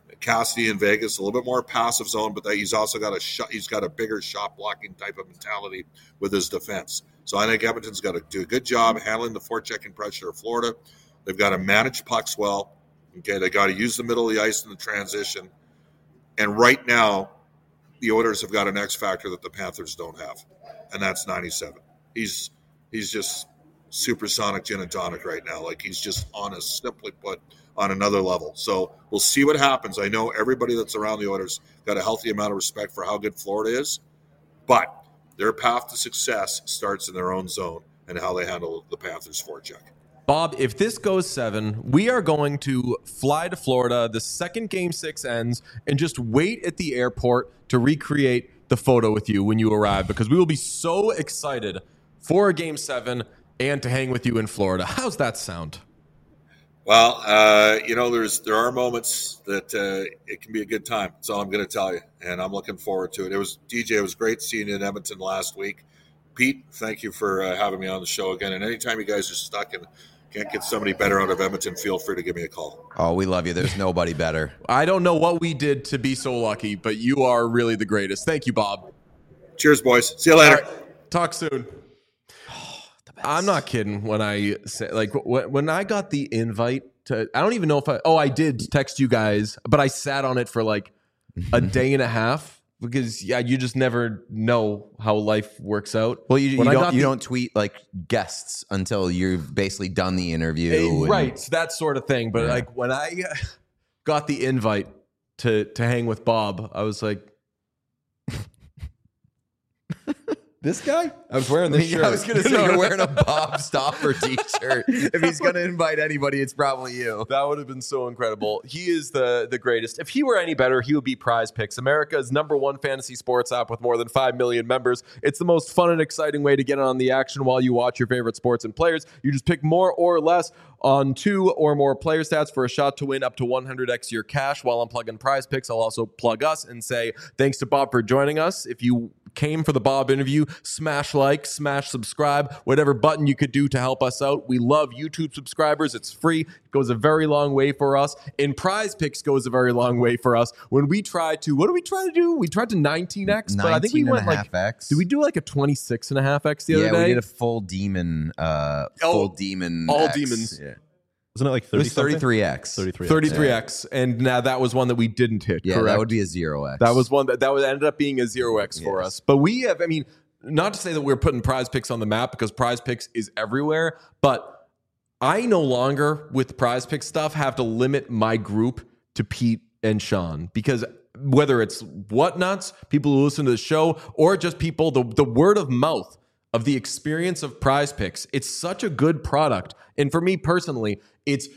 Cassidy in Vegas, a little bit more passive zone, but he's also got he's got a bigger shot blocking type of mentality with his defense. So I think Edmonton's got to do a good job handling the forechecking pressure of Florida. They've got to manage pucks well. Okay, they got to use the middle of the ice in the transition. And right now, the Oilers have got an X factor that the Panthers don't have, and that's 97. He's just supersonic gin and tonic right now. Like, he's just simply put, on another level. So we'll see what happens. I know everybody that's around the Oilers got a healthy amount of respect for how good Florida is, but their path to success starts in their own zone and how they handle the Panthers forecheck. Bob, if this goes 7, we are going to fly to Florida. The second Game 6 ends and just wait at the airport to recreate the photo with you when you arrive, because we will be so excited for a Game 7 and to hang with you in Florida. How's that sound? Well, there are moments that it can be a good time. That's all I'm going to tell you, and I'm looking forward to it. It was great seeing you in Edmonton last week. Pete, thank you for having me on the show again. And anytime you guys are stuck and can't get somebody better out of Edmonton, feel free to give me a call. Oh, we love you. There's nobody better. I don't know what we did to be so lucky, but you are really the greatest. Thank you, Bob. Cheers, boys. See you later. Right, talk soon. I'm not kidding when I say, like, when I got the invite to, I don't even know if I did text you guys, but I sat on it for like a day and a half, because you just never know how life works out. Well, you don't tweet like guests until you've basically done the interview. Right. So that sort of thing. But like, when I got the invite to hang with Bob, I was like, this guy? I was wearing this shirt. I was going to say, you're wearing a Bob Stauffer t-shirt. If he's going to invite anybody, it's probably you. That would have been so incredible. He is the greatest. If he were any better, he would be Prize Picks, America's #1 fantasy sports app with more than 5 million members. It's the most fun and exciting way to get on the action while you watch your favorite sports and players. You just pick more or less on 2 or more player stats for a shot to win up to 100x your cash. While I'm plugging Prize Picks, I'll also plug us and say thanks to Bob for joining us. If you came for the Bob interview, smash like, smash subscribe, whatever button you could do to help us out. We love YouTube subscribers. It's free. It goes a very long way for us. And Prize Picks goes a very long way for us. When we try to, what do we try to do? We tried to 19x, but I think we went like, X. did we do like a 26.5x the other day? Yeah, we did a full demon, all X. demons. Yeah. Wasn't it like 30 It was 33x. 33x, and now that was one that we didn't hit. Yeah, correct? that would be a 0x. That was one that ended up being a 0x for us. But we have, I mean, not to say that we're putting Prize Picks on the map, because Prize Picks is everywhere, but I no longer, with Prize Picks stuff, have to limit my group to Pete and Sean, because whether it's Whatnuts, people who listen to the show, or just people, the word of mouth of the experience of Prize Picks, it's such a good product. And for me personally, its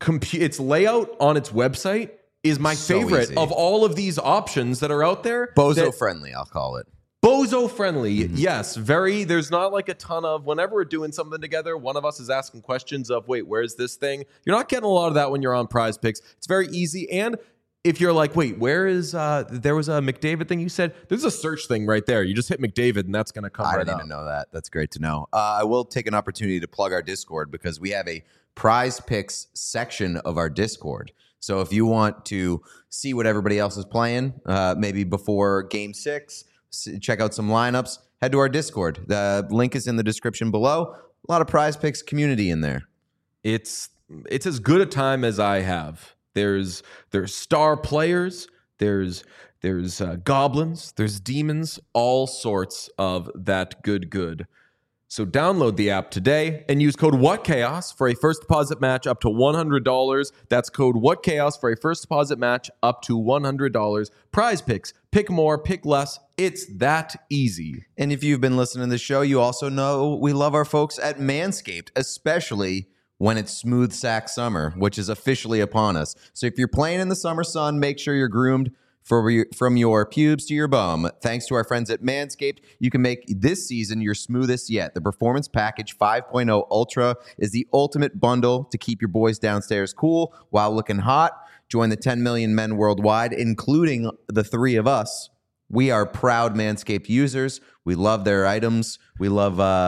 layout on its website is my favorite easy. of all of these options that are out there. Bozo friendly, I'll call it. Bozo friendly, yes. Very. There's not like a ton of, whenever we're doing something together, one of us is asking questions of, wait, where's this thing? You're not getting a lot of that when you're on Prize Picks. It's very easy. And if you're like, wait, where is, there was a McDavid thing you said, there's a search thing right there. You just hit McDavid and that's going to come right up. I didn't even know that. That's great to know. I will take an opportunity to plug our Discord, because we have a Prize Picks section of our Discord. So if you want to see what everybody else is playing, maybe before Game 6, check out some lineups, head to our Discord. The link is in the description below. A lot of Prize Picks community in there. It's as good a time as I have. There's star players, there's goblins, there's demons, all sorts of that good. So download the app today and use code WhatChaos for a first deposit match up to $100. That's code WhatChaos for a first deposit match up to $100. Prize Picks. Pick more, pick less. It's that easy. And if you've been listening to the show, you also know we love our folks at Manscaped, especially when it's smooth sack summer, which is officially upon us. So if you're playing in the summer sun, make sure you're groomed from your pubes to your bum. Thanks to our friends at Manscaped, you can make this season your smoothest yet. The Performance Package 5.0 Ultra is the ultimate bundle to keep your boys downstairs cool while looking hot. Join the 10 million men worldwide, including the 3 of us. We are proud Manscaped users. We love their items. We love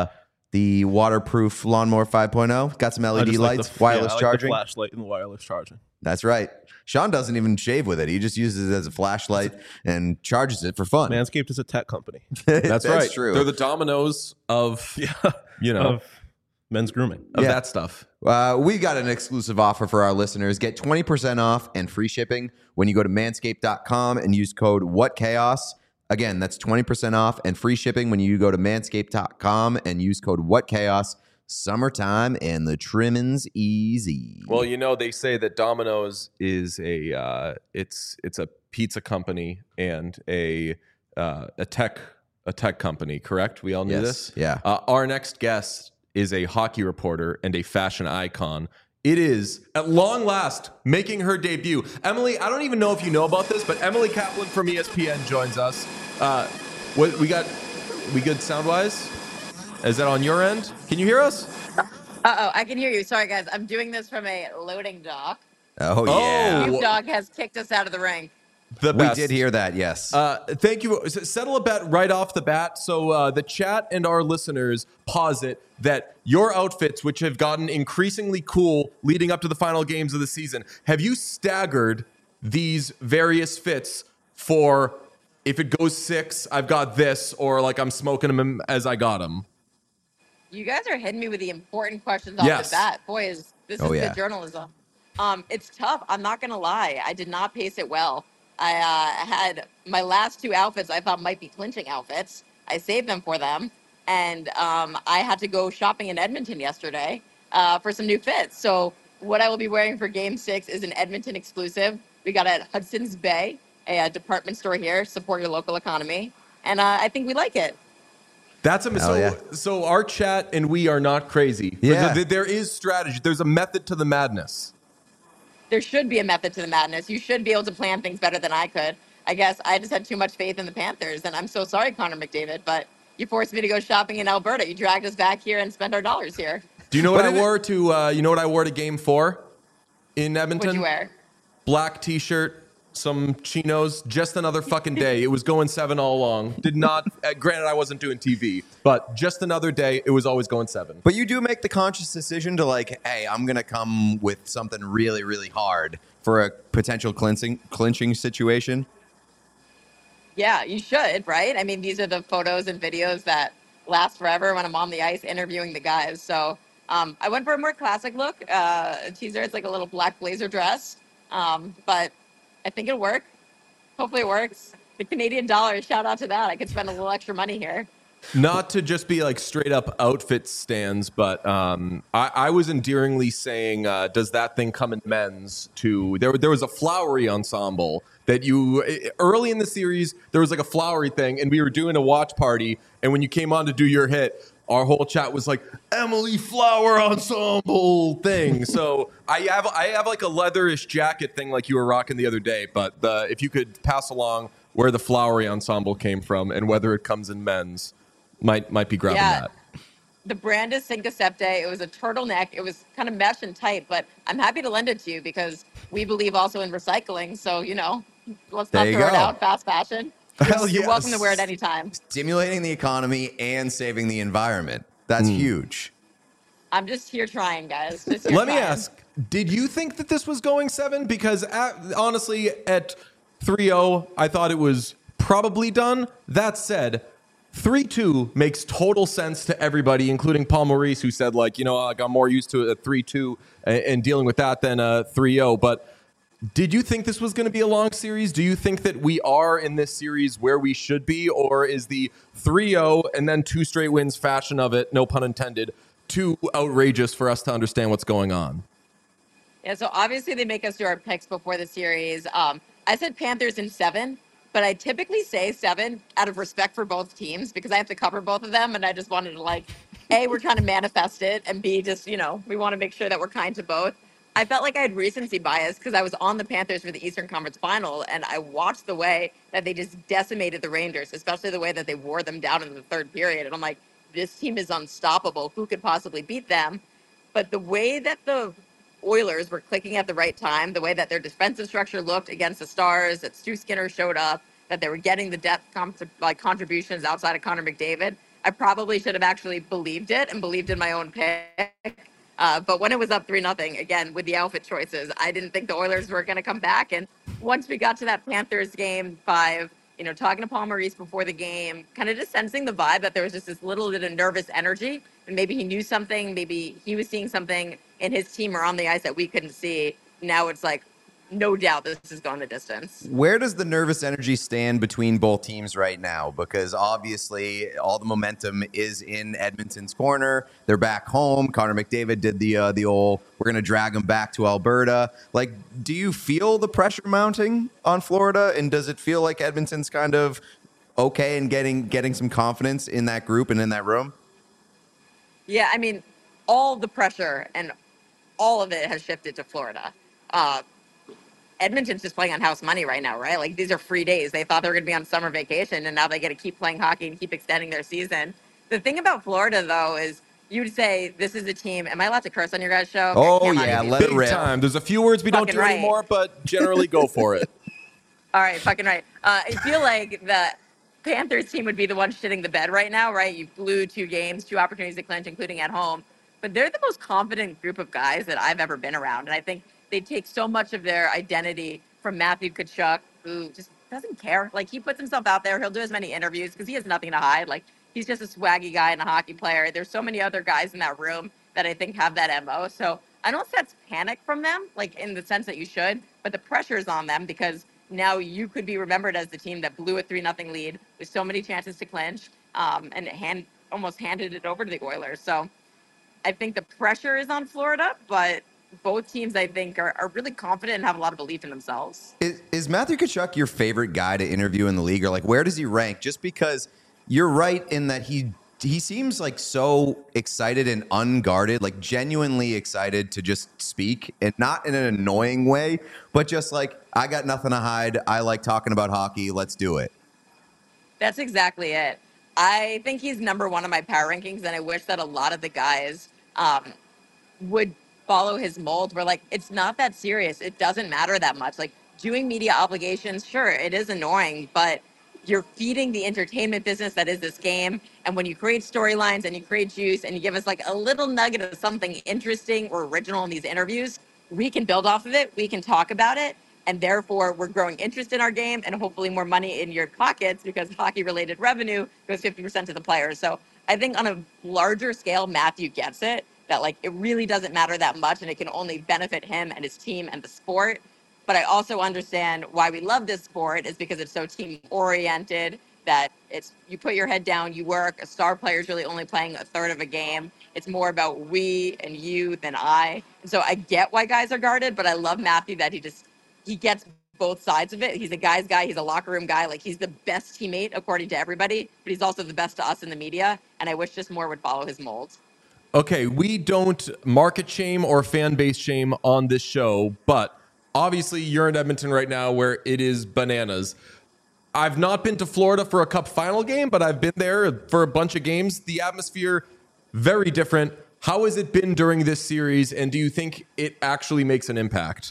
The waterproof lawnmower 5.0. Got some I LED just like lights, the, wireless I like charging. the flashlight and the wireless charging. That's right. Sean doesn't even shave with it. He just uses it as a flashlight and charges it for fun. Manscaped is a tech company. That's right. true. They're the dominoes of, Of men's grooming. of Yeah. that stuff. We got an exclusive offer for our listeners. Get 20% off and free shipping when you go to manscaped.com and use code WhatChaos. Again, that's 20% off and free shipping when you go to manscaped.com and use code WhatChaos. Summertime and the trimming's easy. Well, they say that Domino's is it's a pizza company and a tech company, correct? We all knew Yes. this. Yeah. Our next guest is a hockey reporter and a fashion icon. It is, at long last, making her debut. Emily, I don't even know if you know about this, but Emily Kaplan from ESPN joins us. What we good sound-wise? Is that on your end? Can you hear us? I can hear you. Sorry, guys. I'm doing this from a loading dock. Oh, Oh, yeah. Noob Dog has kicked us out of the ring. The We best. did hear that, yes. Thank you. Settle a bet right off the bat. So the chat and our listeners posit that your outfits, which have gotten increasingly cool leading up to the final games of the season, have you staggered these various fits for if it goes 6, I've got this, or like I'm smoking them as I got them? You guys are hitting me with the important questions off Yes. the bat. Boy, this Oh, is yeah. good journalism. It's tough. I'm not gonna lie. I did not pace it well. I had my last 2 outfits I thought might be clinching outfits. I saved them for them, and I had to go shopping in Edmonton yesterday for some new fits. So what I will be wearing for Game 6 is an Edmonton exclusive. We got it at Hudson's Bay, a department store here. Support your local economy, and I think we like it. That's Hell yeah. so our chat and we are not crazy. Yeah. There is strategy. There's a method to the madness. There should be a method to the madness. You should be able to plan things better than I could. I guess I just had too much faith in the Panthers, and I'm so sorry, Connor McDavid, but you forced me to go shopping in Alberta. You dragged us back here and spent our dollars here. Do you know what But I wore to? You know what I wore to Game 4 in Edmonton? What'd you wear? Black T-shirt, some chinos, just another fucking day. It was going 7 all along. Did not, granted, I wasn't doing TV, but just another day. It was always going 7. But you do make the conscious decision to like, hey, I'm going to come with something really, really hard for a potential clinching situation. Yeah, you should, right? I mean, these are the photos and videos that last forever when I'm on the ice interviewing the guys. So I went for a more classic look. Teaser, it's like a little black blazer dress, but I think it'll work. Hopefully it works. The Canadian dollar, shout out to that. I could spend a little extra money here. Not to just be like straight up outfit stands, but I was endearingly saying, does that thing come in men's too? There was a flowery ensemble that early in the series, there was like a flowery thing, and we were doing a watch party, and when you came on to do your hit, our whole chat was like Emily Flower Ensemble thing. So I have like a leatherish jacket thing like you were rocking the other day, but if you could pass along where the flowery ensemble came from and whether it comes in men's, might be grabbing that. The brand is Cinque Septe. It was a turtleneck. It was kind of mesh and tight, but I'm happy to lend it to you because we believe also in recycling. So, let's There not you throw it go. out fast fashion. Hell You're yes. welcome to wear it anytime. Stimulating the economy and saving the environment. That's huge. I'm just here trying, guys. Just here Let me trying. ask, did you think that this was going 7? Because honestly, at 3-0, I thought it was probably done. That said, 3-2 makes total sense to everybody, including Paul Maurice, who said, like, I got more used to a 3-2 and dealing with that than a 3-0. But did you think this was going to be a long series? Do you think that we are in this series where we should be? Or is the 3-0 and then 2 straight wins fashion of it, no pun intended, too outrageous for us to understand what's going on? Yeah, so obviously they make us do our picks before the series. I said Panthers in 7, but I typically say 7 out of respect for both teams because I have to cover both of them. And I just wanted to A, we're trying to manifest it, and B, just, we want to make sure that we're kind to both. I felt like I had recency bias because I was on the Panthers for the Eastern Conference Final, and I watched the way that they just decimated the Rangers, especially the way that they wore them down in the third period. And I'm like, this team is unstoppable. Who could possibly beat them? But the way that the Oilers were clicking at the right time, the way that their defensive structure looked against the Stars, that Stu Skinner showed up, that they were getting the depth contributions outside of Connor McDavid, I probably should have actually believed it and believed in my own pick. But when it was up 3-0, again, with the outfit choices, I didn't think the Oilers were going to come back. And once we got to that Panthers game 5, talking to Paul Maurice before the game, kind of just sensing the vibe that there was just this little bit of nervous energy. And maybe he knew something, maybe he was seeing something in his team or on the ice that we couldn't see. Now it's like, no doubt this is going the distance. Where does the nervous energy stand between both teams right now? Because obviously all the momentum is in Edmonton's corner. They're back home. Connor McDavid did the old, we're going to drag them back to Alberta. Like, do you feel the pressure mounting on Florida? And does it feel like Edmonton's kind of okay and getting some confidence in that group and in that room? Yeah, I mean, all the pressure and all of it has shifted to Florida. Edmonton's just playing on house money right now, right? Like, these are free days. They thought they were going to be on summer vacation, and now they get to keep playing hockey and keep extending their season. The thing about Florida, though, is you would say this is a team. Am I allowed to curse on your guys' show? Oh, yeah, let it Big rip. time. There's a few words we don't Fucking do right. anymore, but generally go for it. All right, fucking right. I feel like the Panthers team would be the one shitting the bed right now, right? You blew 2 games, 2 opportunities to clinch, including at home. But they're the most confident group of guys that I've ever been around. And I think they take so much of their identity from Matthew Tkachuk, who just doesn't care. Like, he puts himself out there. He'll do as many interviews because he has nothing to hide. Like, he's just a swaggy guy and a hockey player. There's so many other guys in that room that I think have that MO. So I don't sense panic from them, like in the sense that you should, but the pressure is on them because now you could be remembered as the team that blew a 3-0 lead with so many chances to clinch, and almost handed it over to the Oilers. So I think the pressure is on Florida, but both teams, I think, are really confident and have a lot of belief in themselves. Is Matthew Tkachuk your favorite guy to interview in the league? Or, like, where does he rank? Just because you're right in that he seems like so excited and unguarded, like genuinely excited to just speak, and not in an annoying way, but just like, I got nothing to hide. I like talking about hockey. Let's do it. That's exactly it. I think he's number 1 on my power rankings, and I wish that a lot of the guys would follow his mold. Where, like, it's not that serious. It doesn't matter that much. Like, doing media obligations, sure, it is annoying, but you're feeding the entertainment business that is this game. And when you create storylines and you create juice and you give us like a little nugget of something interesting or original in these interviews, we can build off of it. We can talk about it. And therefore, we're growing interest in our game and hopefully more money in your pockets because hockey related revenue goes 50% to the players. So I think on a larger scale, Matthew gets it, that like it really doesn't matter that much and it can only benefit him and his team and the sport. But I also understand why we love this sport is because it's so team oriented, that it's you put your head down, you work. A star player is really only playing a third of a game. It's more about we and you than I. And so I get why guys are guarded, but I love Matthew that he gets both sides of it. He's a guy's guy. He's a locker room guy. Like, he's the best teammate according to everybody, but he's also the best to us in the media. And I wish just more would follow his mold. Okay, we don't market shame or fan base shame on this show, but obviously you're in Edmonton right now where it is bananas. I've not been to Florida for a Cup final game, but I've been there for a bunch of games. The atmosphere, very different. How has it been during this series, and do you think it actually makes an impact?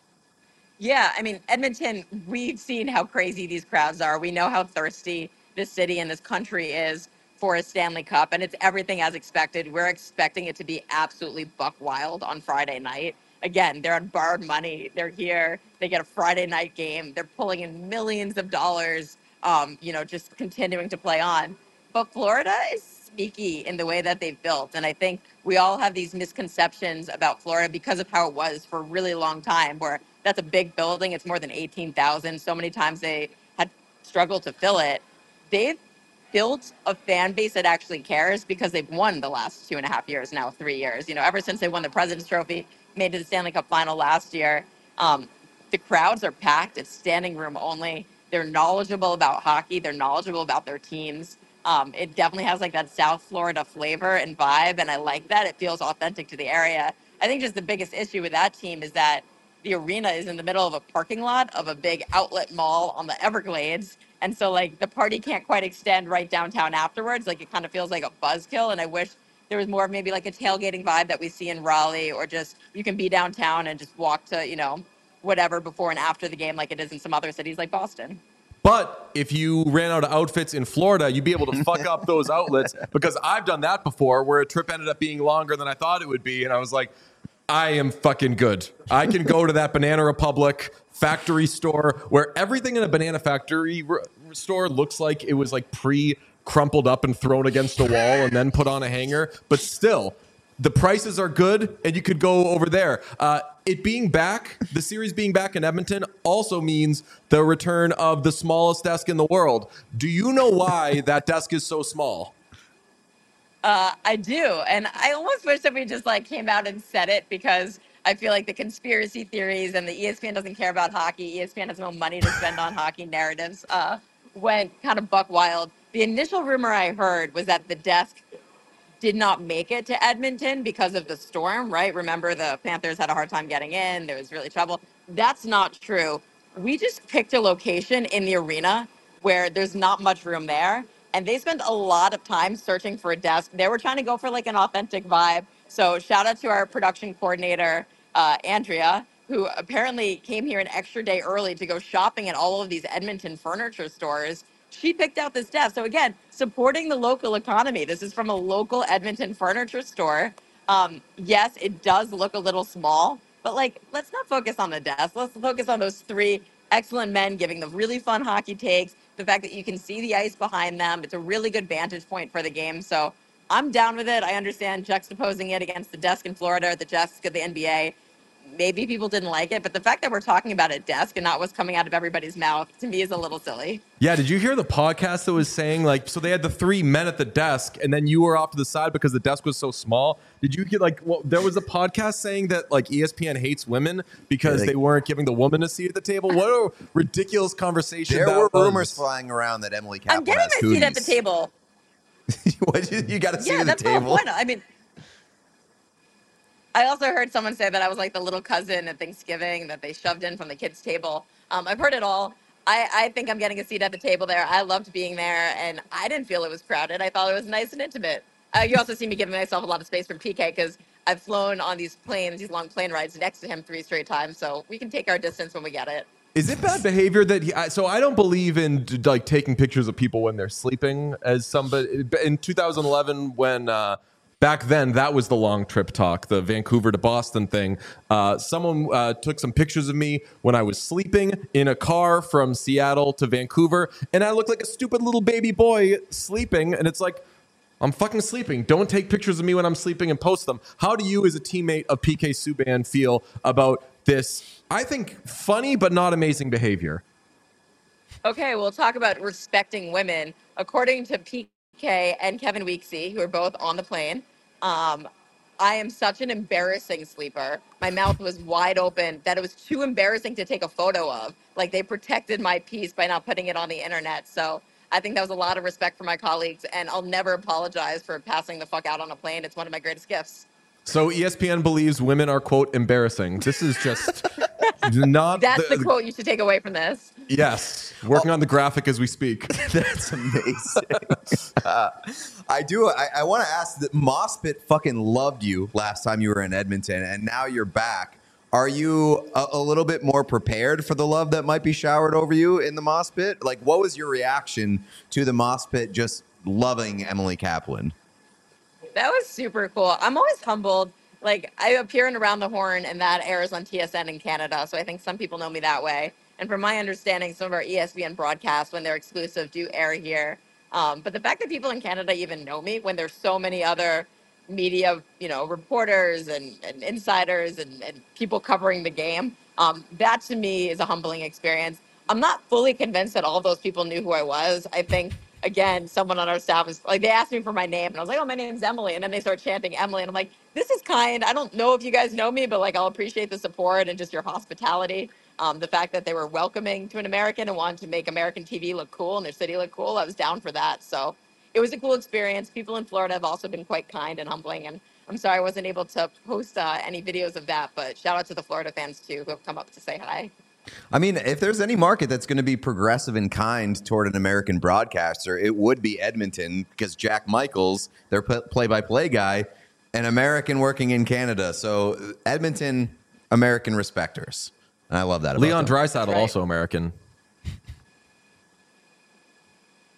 Yeah, I mean, Edmonton, we've seen how crazy these crowds are. We know how thirsty this city and this country is for a Stanley Cup, and it's everything as expected. We're expecting it to be absolutely buck wild on Friday night. Again, they're on borrowed money. They're here. They get a Friday night game. They're pulling in millions of dollars, just continuing to play on. But Florida is sneaky in the way that they've built. And I think we all have these misconceptions about Florida because of how it was for a really long time, where that's a big building. It's more than 18,000. So many times they had struggled to fill it. They've built a fan base that actually cares because they've won the last 2.5 years, now 3 years. Ever since they won the President's Trophy, made it to the Stanley Cup final last year. The crowds are packed. It's standing room only. They're knowledgeable about hockey. They're knowledgeable about their teams. It definitely has like that South Florida flavor and vibe, and I like that. It feels authentic to the area. I think just the biggest issue with that team is that the arena is in the middle of a parking lot of a big outlet mall on the Everglades. And so like the party can't quite extend right downtown afterwards. Like, it kind of feels like a buzzkill. And I wish there was more of maybe like a tailgating vibe that we see in Raleigh, or just you can be downtown and just walk to, whatever before and after the game like it is in some other cities like Boston. But if you ran out of outfits in Florida, you'd be able to fuck up those outlets, because I've done that before where a trip ended up being longer than I thought it would be. And I was like, I am fucking good. I can go to that Banana Republic factory store where everything in a banana factory store looks like it was like crumpled up and thrown against a wall and then put on a hanger. But still, the prices are good, and you could go over there. It being back, the series being back in Edmonton, also means the return of the smallest desk in the world. Do you know why that desk is so small? I do, and I almost wish that we just like came out and said it, because I feel like the conspiracy theories and the ESPN doesn't care about hockey, ESPN has no money to spend on hockey narratives, went kind of buck wild. The initial rumor I heard was that the desk did not make it to Edmonton because of the storm, right? Remember, the Panthers had a hard time getting in. There was really trouble. That's not true. We just picked a location in the arena where there's not much room there. And they spent a lot of time searching for a desk. They were trying to go for like an authentic vibe. So shout out to our production coordinator, Andrea, who apparently came here an extra day early to go shopping at all of these Edmonton furniture stores. She picked out this desk. So again, supporting the local economy. This is from a local Edmonton furniture store. Yes, it does look a little small, but like, let's not focus on the desk. Let's focus on those three excellent men giving the really fun hockey takes. The fact that you can see the ice behind them. It's a really good vantage point for the game. So I'm down with it. I understand juxtaposing it against the desk in Florida, the desk of the NBA. Maybe people didn't like it, but the fact that we're talking about a desk and not what's coming out of everybody's mouth, to me, is a little silly. Yeah, did you hear the podcast that was saying, like, so they had the three men at the desk, and then you were off to the side because the desk was so small? Did you get, like, well, there was a podcast saying that, like, ESPN hates women because they weren't giving the woman a seat at the table? What a ridiculous conversation. There were rumors flying around that Emily Kaplan I'm getting has my seat at cooties. the table. What, you got a seat Yeah, at the that's table? not one. I mean, I also heard someone say that I was like the little cousin at Thanksgiving that they shoved in from the kids' table. I've heard it all. I think I'm getting a seat at the table there. I loved being there, and I didn't feel it was crowded. I thought it was nice and intimate. You also see me giving myself a lot of space from PK because I've flown on these planes, these long plane rides next to him 3 straight times, so we can take our distance when we get it. Is it bad behavior that so I don't believe in like taking pictures of people when they're sleeping as somebody in 2011 when back then that was the long trip talk, the Vancouver to Boston thing. Someone took some pictures of me when I was sleeping in a car from Seattle to Vancouver, and I looked like a stupid little baby boy sleeping, and it's like, I'm fucking sleeping. Don't take pictures of me when I'm sleeping and post them. How do you, as a teammate of PK Subban, feel about this, I think, funny but not amazing behavior? Okay, we'll talk about respecting women. According to PK and Kevin Weeksy, who are both on the plane, I am such an embarrassing sleeper. My mouth was wide open that it was too embarrassing to take a photo of. Like, they protected my piece by not putting it on the internet. So I think that was a lot of respect for my colleagues, and I'll never apologize for passing the fuck out on a plane. It's one of my greatest gifts. So ESPN believes women are, quote, embarrassing. This is just not... That's the quote you should take away from this. Yes. Working on the graphic as we speak. That's amazing. I want to ask that Mospit fucking loved you last time you were in Edmonton, and now you're back. Are you a little bit more prepared for the love that might be showered over you in the Mospit? Like, what was your reaction to the Mospit just loving Emily Kaplan? That was super cool. I'm always humbled. Like, I appear in Around the Horn, and that airs on TSN in Canada, so I think some people know me that way. And from my understanding, some of our ESPN broadcasts, when they're exclusive, do air here. But the fact that people in Canada even know me when there's so many other media, reporters and insiders and people covering the game, that to me is a humbling experience. I'm not fully convinced that all of those people knew who I was. I think, again, someone on our staff is like, they asked me for my name, and I was like, oh, my name's Emily. And then they start chanting Emily, and I'm like, this is kind. I don't know if you guys know me, but like, I'll appreciate the support and just your hospitality. The fact that they were welcoming to an American and wanted to make American TV look cool and their city look cool, I was down for that. So it was a cool experience. People in Florida have also been quite kind and humbling. And I'm sorry I wasn't able to post any videos of that, but shout out to the Florida fans too who have come up to say hi. I mean, if there's any market that's going to be progressive and kind toward an American broadcaster, it would be Edmonton, because Jack Michaels, their play-by-play guy, an American working in Canada. So Edmonton, American respecters. And I love that about Leon them. Draisaitl, Right. also American.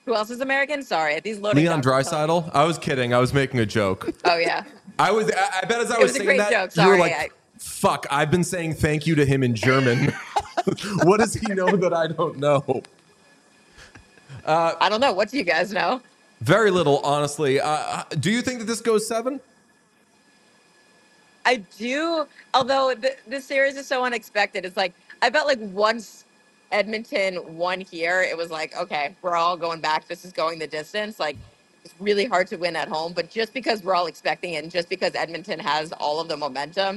Who else is American? Sorry, these loading Leon docks are telling me. Dreisaitl. I was kidding. I was making a joke. Oh yeah, I bet as I It was was a saying great that, joke, you were sorry, like, fuck, I've been saying thank you to him in German. What does he know that I don't know? I don't know. What do you guys know? Very little, honestly. Do you think that this goes 7? I do, although this series is so unexpected. It's like I felt like once Edmonton won here, it was like, okay, we're all going back. This is going the distance. Like it's really hard to win at home, but just because we're all expecting it, and just because Edmonton has all of the momentum,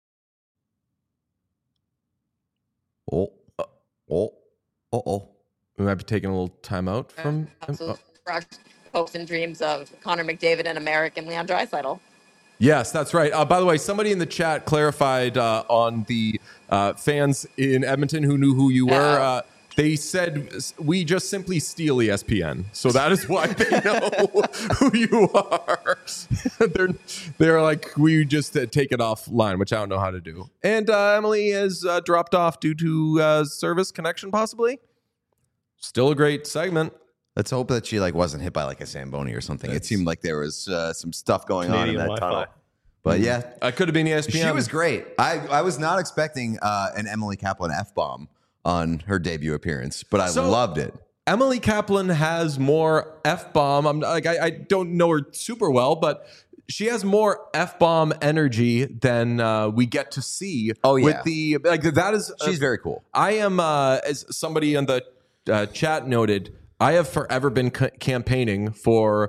Oh. We might be taking a little time out from. absolute crushed hopes and dreams of Connor McDavid and American Leon Draisaitl. Yes, that's right. By the way, somebody in the chat clarified on the fans in Edmonton who knew who you were. They said we just simply steal ESPN, so that is why they know who you are. they're like, we just take it offline, which I don't know how to do. And Emily has dropped off due to service connection, possibly. Still a great segment. Let's hope that she wasn't hit by a Zamboni or something. It seemed like there was some stuff going on in that Wi-Fi. tunnel. But yeah, I could have been ESPN. she was great. I was not expecting an Emily Kaplan F-bomb on her debut appearance, but I loved it. Emily Kaplan has more F-bomb. I don't know her super well, but she has more F-bomb energy than we get to see. Oh, yeah. With the that is She's very cool. I am as somebody on the chat noted, I have forever been campaigning for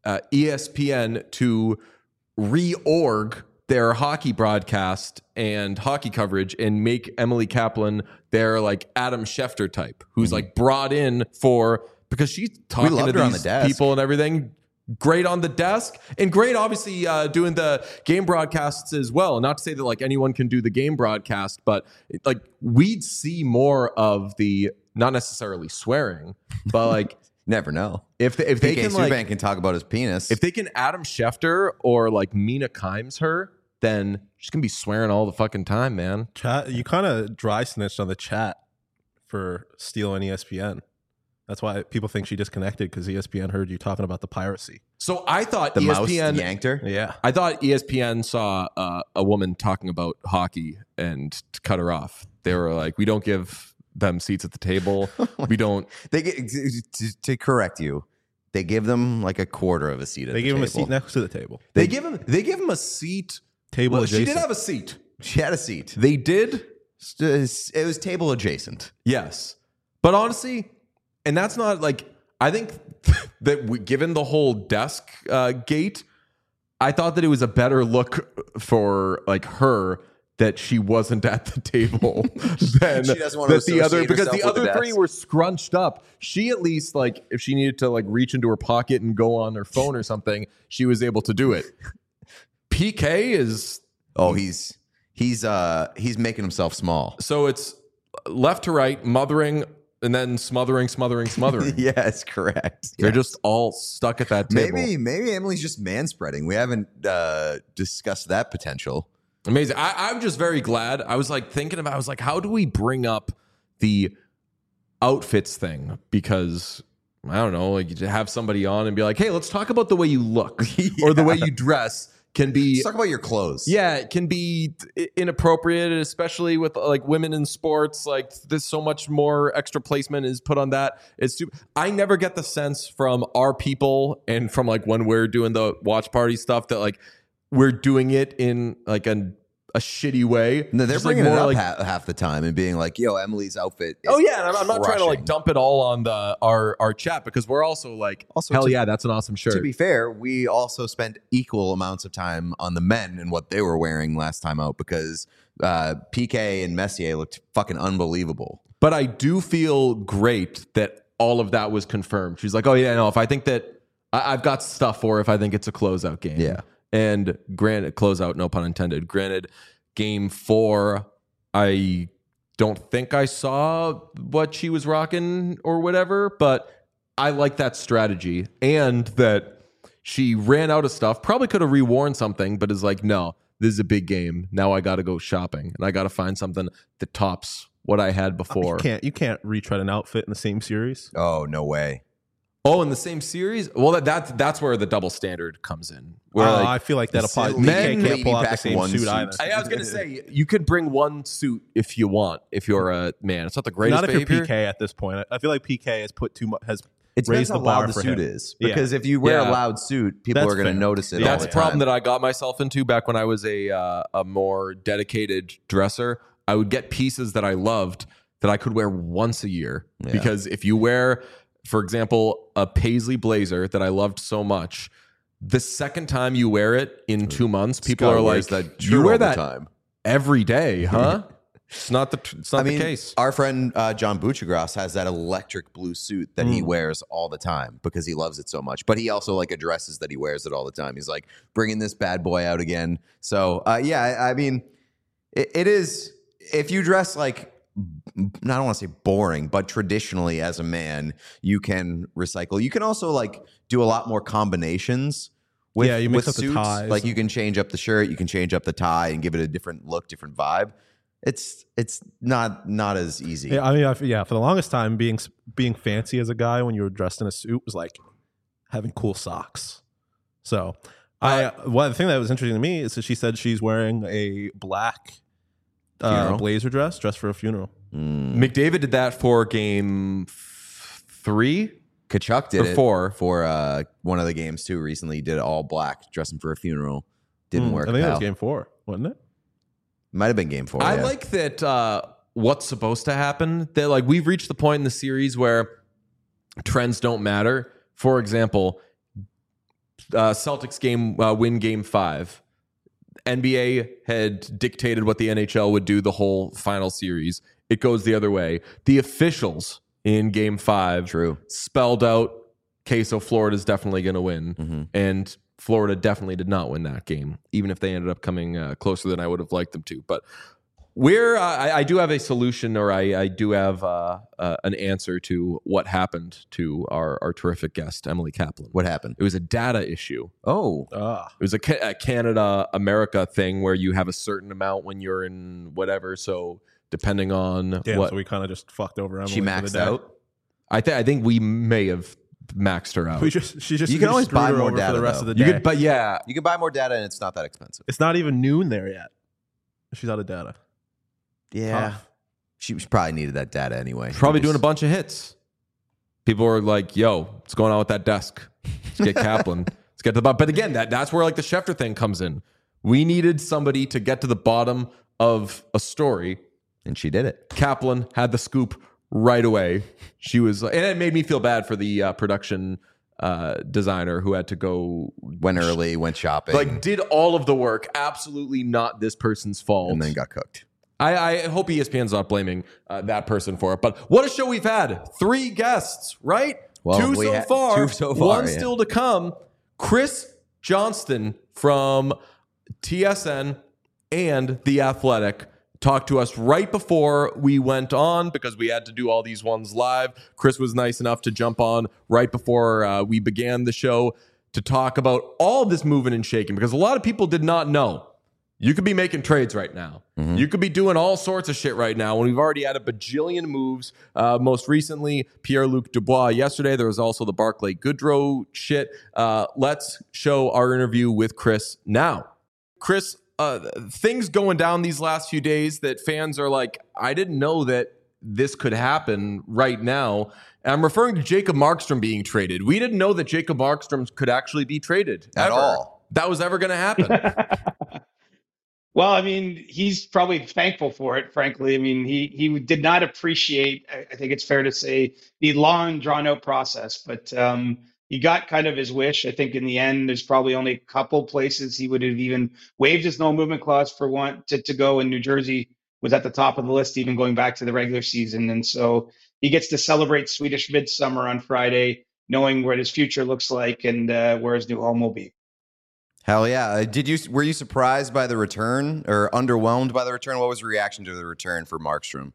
ESPN to reorg their hockey broadcast and hockey coverage and make Emily Kaplan their Adam Schefter type, who's brought in because she's talking to loved her on the these desk. people and everything. Great on the desk and great, obviously, doing the game broadcasts as well. Not to say that anyone can do the game broadcast, but we'd see more of the not necessarily swearing, but Never know. if they PK can Subban can talk about his penis. if they can Adam Schefter or Mina Kimes her, then she's gonna be swearing all the fucking time, man. Chat, you kind of dry snitched on the chat for stealing ESPN. That's why people think she disconnected, because ESPN heard you talking about the piracy. So I thought the mouse ESPN yanked her. Yeah. I thought ESPN saw a woman talking about hockey and cut her off. They were like, we don't give them seats at the table. We don't. They get to correct you. They give them a quarter of a seat at They the gave table. him a seat next to the table. They give him a seat. Table Well, adjacent. she did have a seat. She had a seat. They did. It was table adjacent. Yes. But honestly, and that's not I think that given the whole desk gate, I thought that it was a better look for her that she wasn't at the table than She doesn't want to that the other, associate because the herself with other the three desk. were scrunched up. She at least if she needed to reach into her pocket and go on her phone or something, she was able to do it. PK is Oh, he's making himself small. so it's left to right, mothering, and then smothering. Yes, correct. They're Yes. just all stuck at that table. Maybe Emily's just manspreading. We haven't discussed that potential. Amazing. I'm just very glad. I was thinking about, I was how do we bring up the outfits thing? Because I don't know, you have somebody on and be like, hey, let's talk about the way you look or the way you dress can be. Let's talk about your clothes. Yeah, it can be inappropriate, especially with women in sports. There's so much more extra placement is put on that. It's super. I never get the sense from our people and from when we're doing the watch party stuff that we're doing it in a shitty way. No, they're Just, bringing more it up half the time and being like, "Yo, Emily's outfit." Is oh yeah, and I'm not trying to crushing. dump it all on our chat, because we're also Also, hell to- yeah, that's an awesome shirt. To be fair, we also spent equal amounts of time on the men and what they were wearing last time out, because PK and Messier looked fucking unbelievable. But I do feel great that all of that was confirmed. She's like, oh yeah, no, if I think that I've got stuff for if I think it's a closeout game. Yeah. And granted, closeout, no pun intended. Granted, game 4, I don't think I saw what she was rocking or whatever, but I like that strategy. And that she ran out of stuff, probably could have reworn something, but is like, no, this is a big game. Now I got to go shopping and I got to find something that tops what I had before. You can't retread an outfit in the same series. Oh, no way. Oh, in the same series? Well, that's where the double standard comes in. Where I feel like that applies. men PK can't pull out the back same one suit suit. either. I was gonna say you could bring one suit if you want. If you're a man, it's not the greatest Not if you're behavior. PK at this point. I feel like PK has put too much. Has It depends raised how the bar loud the for suit him. is. Because if you wear Yeah. a loud suit, people That's are going to fair. notice it. Yeah. all That's the a problem time. that I got myself into back when I was a more dedicated dresser. I would get pieces that I loved that I could wear once a year. Yeah. Because if you wear, for example, a paisley blazer that I loved so much, the second time you wear it in 2 months, people Scott are wears like, that "You shirt wear all the that time." every day, huh?" It's not the case. Our friend John Buchagras has that electric blue suit that he wears all the time because he loves it so much. But he also like addresses that he wears it all the time. He's like bringing this bad boy out again. So I mean, it is if you dress like I don't want to say boring, but traditionally as a man, you can recycle. You can also like do a lot more combinations. With, Yeah, you mix with up the suits. ties. Like you can change up the shirt, you can change up the tie, and give it a different look, different vibe. It's not as easy. Yeah, I mean, for the longest time, being fancy as a guy when you were dressed in a suit was like having cool socks. So, the thing that was interesting to me is that she said she's wearing a black blazer dress for a funeral. McDavid did that for game 3. Kachuk did Or it 4. for one of the games too. Recently, he did it all black, dressing for a funeral. Didn't work. I think that was pal. game 4, wasn't it? Might have been game 4. I yeah. like that what's supposed to happen. That like we've reached the point in the series where trends don't matter. For example, Celtics win game 5. NBA had dictated what the NHL would do the whole final series. It goes the other way. The officials in game 5 spelled out, okay, so Florida's definitely going to win. And Florida definitely did not win that game, even if they ended up coming closer than I would have liked them to. But I do have a solution, or I do have an answer to what happened to our terrific guest, Emily Kaplan. What happened? It was a data issue. Oh, It was a Canada-America thing where you have a certain amount when you're in whatever. So depending on Damn, what so we kind of just fucked over Emily. she for the maxed day. out. I think we may have maxed her out. She just You can always screwed buy her more over data, for the rest though. of the You day. could, but yeah, You can buy more data, and it's not that expensive. It's not even noon there yet. She's out of data. Yeah, Tough. she probably needed that data anyway. probably doing a bunch of hits. People were like, "Yo, what's going on with that desk? Let's get Kaplan. Let's get to the bottom." But again, that's where like the Schefter thing comes in. We needed somebody to get to the bottom of a story. and she did it. Kaplan had the scoop right away. She was, and it made me feel bad for the production designer who had to go, Went early, went shopping, like, did all of the work. Absolutely not this person's fault. and then got cooked. I hope ESPN's not blaming that person for it. But what a show we've had. 3 guests, right? Well, two we so had far. 2 so far, One yeah. still to come. Chris Johnston from TSN and The Athletic talked to us right before we went on because we had to do all these ones live. Chris was nice enough to jump on right before we began the show to talk about all this moving and shaking because a lot of people did not know. You could be making trades right now. You could be doing all sorts of shit right now when we've already had a bajillion moves. Most recently, Pierre-Luc Dubois. Yesterday, there was also the Barclay Goodrow shit. Let's show our interview with Chris now. Chris, things going down these last few days that fans are like, I didn't know that this could happen right now. And I'm referring to Jacob Markstrom being traded. We didn't know that Jacob Markstrom could actually be traded. At ever. all. That was ever going to happen. Well, I mean, he's probably thankful for it, frankly. I mean, he did not appreciate, I think it's fair to say, the long, drawn-out process. But he got kind of his wish. I think in the end, there's probably only a couple places he would have even waived his no-movement clause for one to go, and New Jersey was at the top of the list, even going back to the regular season. And so he gets to celebrate Swedish Midsummer on Friday, knowing what his future looks like and where his new home will be. Hell yeah! Were you surprised by the return or underwhelmed by the return? What was your reaction to the return for Markstrom?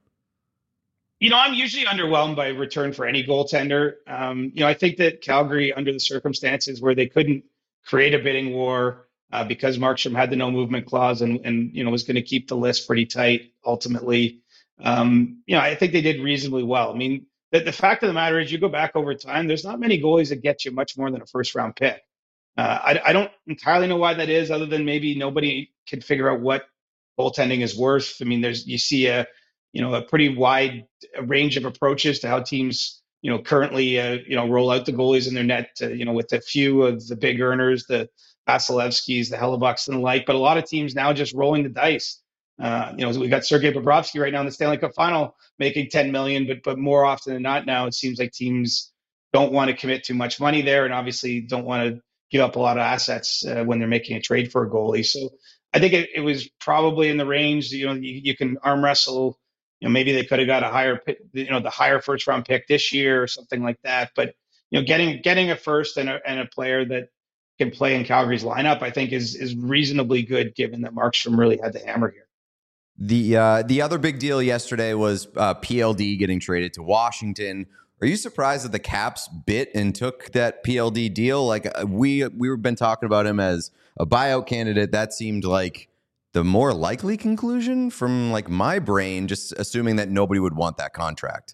You know, I'm usually underwhelmed by return for any goaltender. I think that Calgary, under the circumstances where they couldn't create a bidding war because Markstrom had the no movement clause and was going to keep the list pretty tight ultimately. I think they did reasonably well. I mean, the fact of the matter is, you go back over time, there's not many goalies that get you much more than a first round pick. I don't entirely know why that is, other than maybe nobody can figure out what goaltending is worth. I mean, you see a pretty wide range of approaches to how teams currently roll out the goalies in their net. With a few of the big earners, the Vasilevskis, the Hellebucks, and the like. But a lot of teams now just rolling the dice. We got Sergei Bobrovsky right now in the Stanley Cup Final making $10 million, but more often than not now it seems like teams don't want to commit too much money there, and obviously don't want to give up a lot of assets when they're making a trade for a goalie. So I think it was probably in the range. You can arm wrestle. Maybe they could have got a higher, the higher first round pick this year or something like that. But getting a first and a player that can play in Calgary's lineup, I think is reasonably good, given that Markstrom really had the hammer here. The other big deal yesterday was PLD getting traded to Washington. Are you surprised that the Caps bit and took that PLD deal? Like we've been talking about him as a buyout candidate. That seemed like the more likely conclusion from like my brain, just assuming that nobody would want that contract.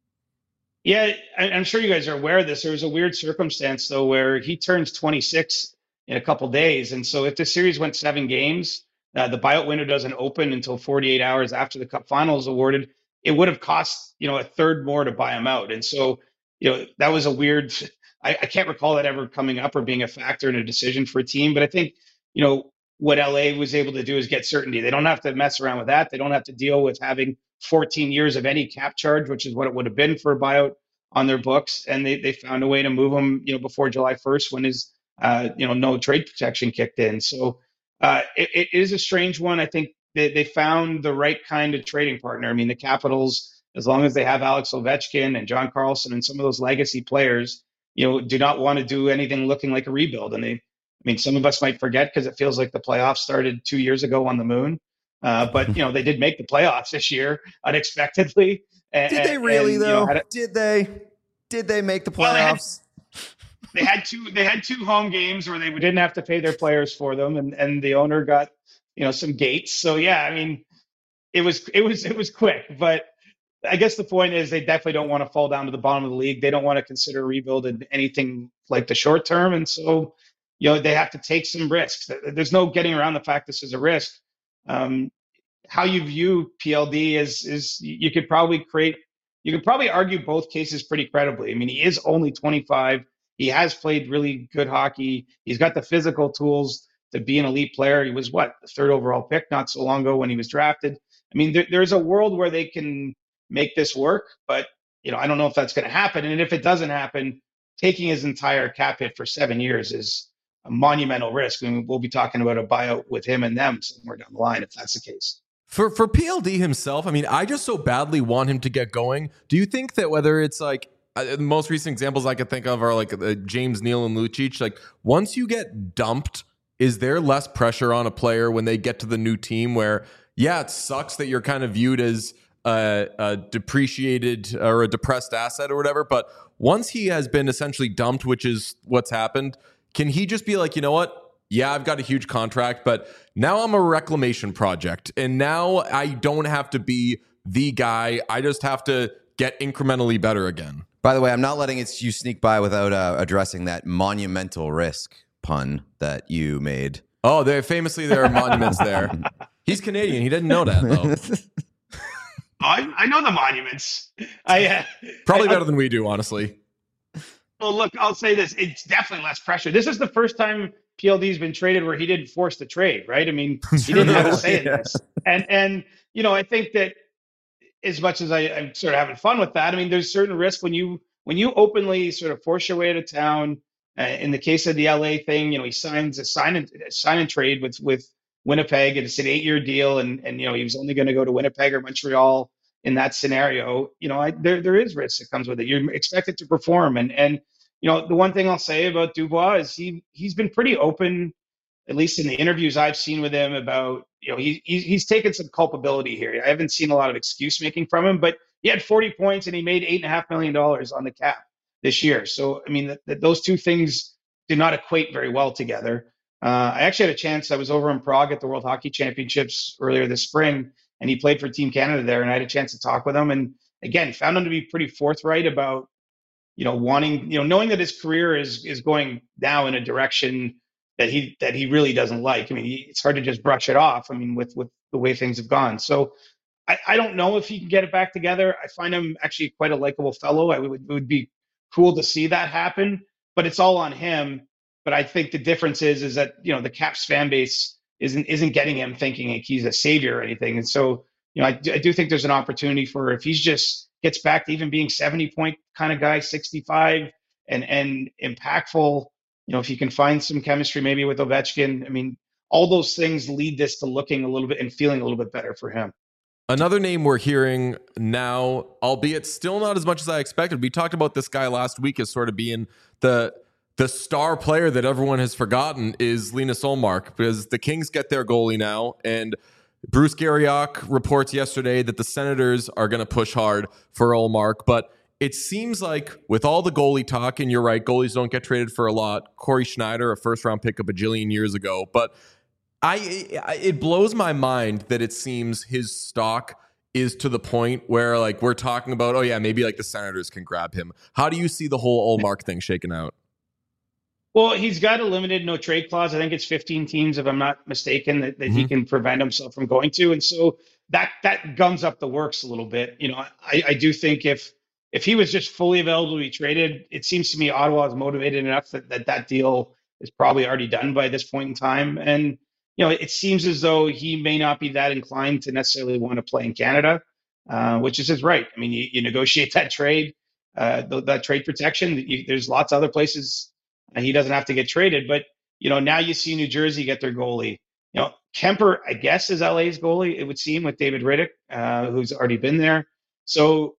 Yeah, I'm sure you guys are aware of this. There was a weird circumstance, though, where he turns 26 in a couple days. And so if the series went 7 games, the buyout window doesn't open until 48 hours after the Cup final is awarded. It would have cost, a third more to buy him out. And so, that was a weird, I can't recall that ever coming up or being a factor in a decision for a team. But I think, what LA was able to do is get certainty. They don't have to mess around with that. They don't have to deal with having 14 years of any cap charge, which is what it would have been for a buyout on their books. And they found a way to move him, before July 1st, when his, no trade protection kicked in. So it is a strange one. I think they found the right kind of trading partner. I mean, the Capitals, as long as they have Alex Ovechkin and John Carlson and some of those legacy players, do not want to do anything looking like a rebuild. And some of us might forget because it feels like the playoffs started 2 years ago on the moon. But they did make the playoffs this year unexpectedly. Did they really though? Did they make the playoffs? They had two home games where they didn't have to pay their players for them, and the owner got some gates. So yeah, it was quick. But I guess the point is they definitely don't want to fall down to the bottom of the league. They don't want to consider rebuild in anything like the short term, and so they have to take some risks. There's no getting around the fact this is a risk. How you view PLD is you could probably argue both cases pretty credibly. He is only 25. He has played really good hockey. He's got the physical tools to be an elite player. He was the 3rd overall pick not so long ago when he was drafted. There's a world where they can make this work, but I don't know if that's going to happen. And if it doesn't happen, taking his entire cap hit for 7 years is a monumental risk. We'll be talking about a buyout with him and them somewhere down the line if that's the case. For PLD himself, I just so badly want him to get going. Do you think that whether it's like the most recent examples I could think of are like James Neal and Lucic, like once you get dumped, is there less pressure on a player when they get to the new team where, yeah, it sucks that you're kind of viewed as a depreciated or a depressed asset or whatever, but once he has been essentially dumped, which is what's happened, can he just be like, you know what? Yeah, I've got a huge contract, but now I'm a reclamation project. And now I don't have to be the guy. I just have to get incrementally better again. By the way, I'm not letting you sneak by without addressing that monumental risk pun that you made. Oh, there are monuments there. He's Canadian. He didn't know that, though. I know the monuments. Probably better than we do, honestly. Well, look, I'll say this. It's definitely less pressure. This is the first time PLD's been traded where he didn't force the trade, right? He didn't have a say in this. And I think that as much as I'm sort of having fun with that, there's certain risk when you openly sort of force your way out of town. In the case of the LA thing, he signs a sign and trade with Winnipeg, and it's an 8-year deal, and he was only going to go to Winnipeg or Montreal in that scenario. There is risk that comes with it. You're expected to perform, and the one thing I'll say about Dubois is he's been pretty open, at least in the interviews I've seen with him, about he's taken some culpability here. I haven't seen a lot of excuse making from him, but he had 40 points and he made $8.5 million on the cap this year. So those two things do not equate very well together. I actually had a chance. I was over in Prague at the World Hockey Championships earlier this spring, and he played for Team Canada there, and I had a chance to talk with him. And again, found him to be pretty forthright about, wanting, knowing that his career is going now in a direction that he really doesn't like. I mean, it's hard to just brush it off. I mean, with the way things have gone. So I don't know if he can get it back together. I find him actually quite a likable fellow. It would be cool to see that happen, but it's all on him. But I think the difference is that the Caps fan base isn't getting him thinking like he's a savior or anything. And so I do think there's an opportunity for, if he's just gets back to even being 70-point kind of guy, 65 and impactful. If you can find some chemistry maybe with Ovechkin, I mean, all those things lead this to looking a little bit and feeling a little bit better for him. Another name we're hearing now, albeit still not as much as I expected. We talked about this guy last week as sort of being the star player that everyone has forgotten, is Linus Ullmark, because the Kings get their goalie now, and Bruce Garriock reports yesterday that the Senators are going to push hard for Ullmark, but it seems like with all the goalie talk, and you're right, goalies don't get traded for a lot. Corey Schneider, a first-round pick a bajillion years ago, but it blows my mind that it seems his stock is to the point where like we're talking about, oh yeah, maybe like the Senators can grab him. How do you see the whole Ullmark thing shaking out? Well, he's got a limited no trade clause. I think it's 15 teams, if I'm not mistaken, that he can prevent himself from going to. And so that gums up the works a little bit. I do think if he was just fully available to be traded, it seems to me Ottawa is motivated enough that deal is probably already done by this point in time. And it seems as though he may not be that inclined to necessarily want to play in Canada, which is his right. I mean, you negotiate that trade, that trade protection. There's lots of other places he doesn't have to get traded. But now you see New Jersey get their goalie. Kemper, I guess, is LA's goalie. It would seem, with David Rittich, who's already been there. So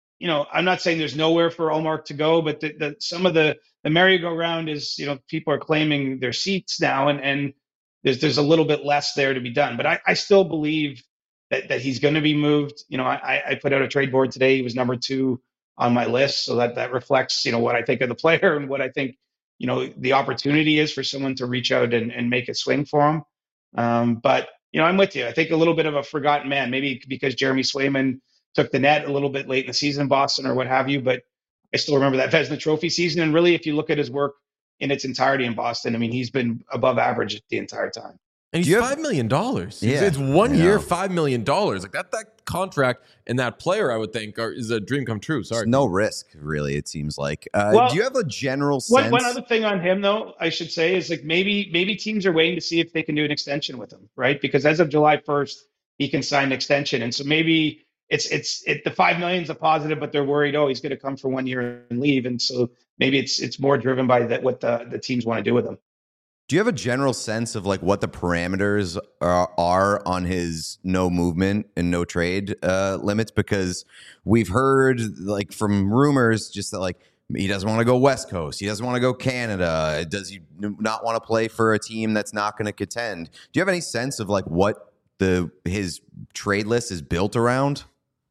I'm not saying there's nowhere for Ullmark to go, but some of the merry-go-round is people are claiming their seats now, and there's a little bit less there to be done. But I still believe that he's going to be moved. I put out a trade board today. He was number 2 on my list, so that reflects what I think of the player and what I think the opportunity is for someone to reach out and make a swing for him. But I'm with you. I think a little bit of a forgotten man, maybe because Jeremy Swayman took the net a little bit late in the season in Boston or what have you. But I still remember that Vezina Trophy season. And really, if you look at his work in its entirety in Boston, I mean, he's been above average the entire time. And he's $5 million. Yeah, it's 1 year, $5 million. Like that contract and that player, I would think, is a dream come true. Sorry, there's no risk, really. It seems like. Do you have a general sense? One other thing on him, though, I should say, is like maybe teams are waiting to see if they can do an extension with him, right? Because as of July 1st, he can sign an extension, and so maybe it's the $5 million is a positive, but they're worried, he's going to come for 1 year and leave, and so maybe it's more driven by what the teams want to do with him. Do you have a general sense of like what the parameters are on his no movement and no trade limits? Because we've heard like from rumors just that like he doesn't want to go West Coast. He doesn't want to go Canada. Does he not want to play for a team that's not going to contend? Do you have any sense of like what his trade list is built around?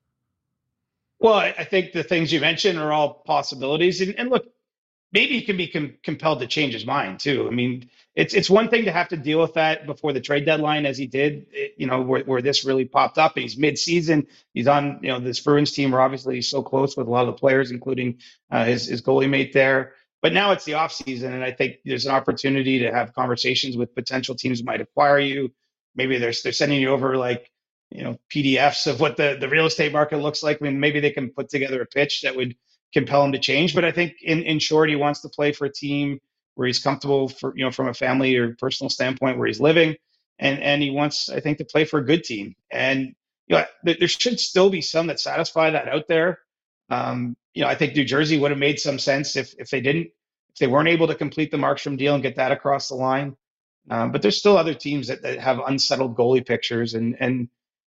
Well, I think the things you mentioned are all possibilities. And look, maybe he can be compelled to change his mind too. I mean, it's one thing to have to deal with that before the trade deadline, as he did, where this really popped up. And he's mid-season. He's on, this Bruins team. We're obviously so close with a lot of the players, including his goalie mate there. But now it's the offseason, and I think there's an opportunity to have conversations with potential teams who might acquire you. Maybe they're sending you over like, PDFs of what the real estate market looks like. I mean, maybe they can put together a pitch that would compel him to change. But I think in short, he wants to play for a team where he's comfortable from a family or personal standpoint where he's living. And he wants, I think, to play for a good team. And, there should still be some that satisfy that out there. I think New Jersey would have made some sense if they weren't able to complete the Markstrom deal and get that across the line. But there's still other teams that have unsettled goalie pictures. And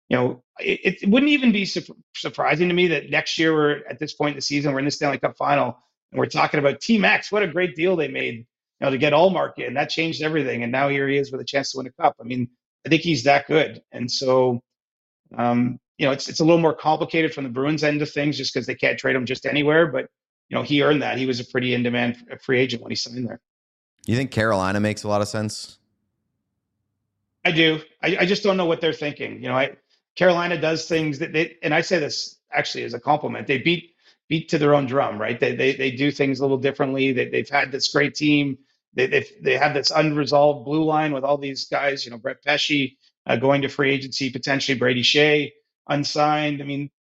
it wouldn't even be surprising to me that next year we're at this point in the season, we're in the Stanley Cup final, and we're talking about Team X. What a great deal they made, to get Ullmark in. That changed everything, and now here he is with a chance to win a cup. I mean, I think he's that good, and so it's a little more complicated from the Bruins end of things, just because they can't trade him just anywhere. But he earned that. He was a pretty in-demand free agent when he signed there. You think Carolina makes a lot of sense? I do. I just don't know what they're thinking. Carolina does things and I say this actually as a compliment. They beat to their own drum, right? They do things a little differently. They've had this great team. They have this unresolved blue line with all these guys. Brett Pesce going to free agency, potentially Brady Shea unsigned. I mean,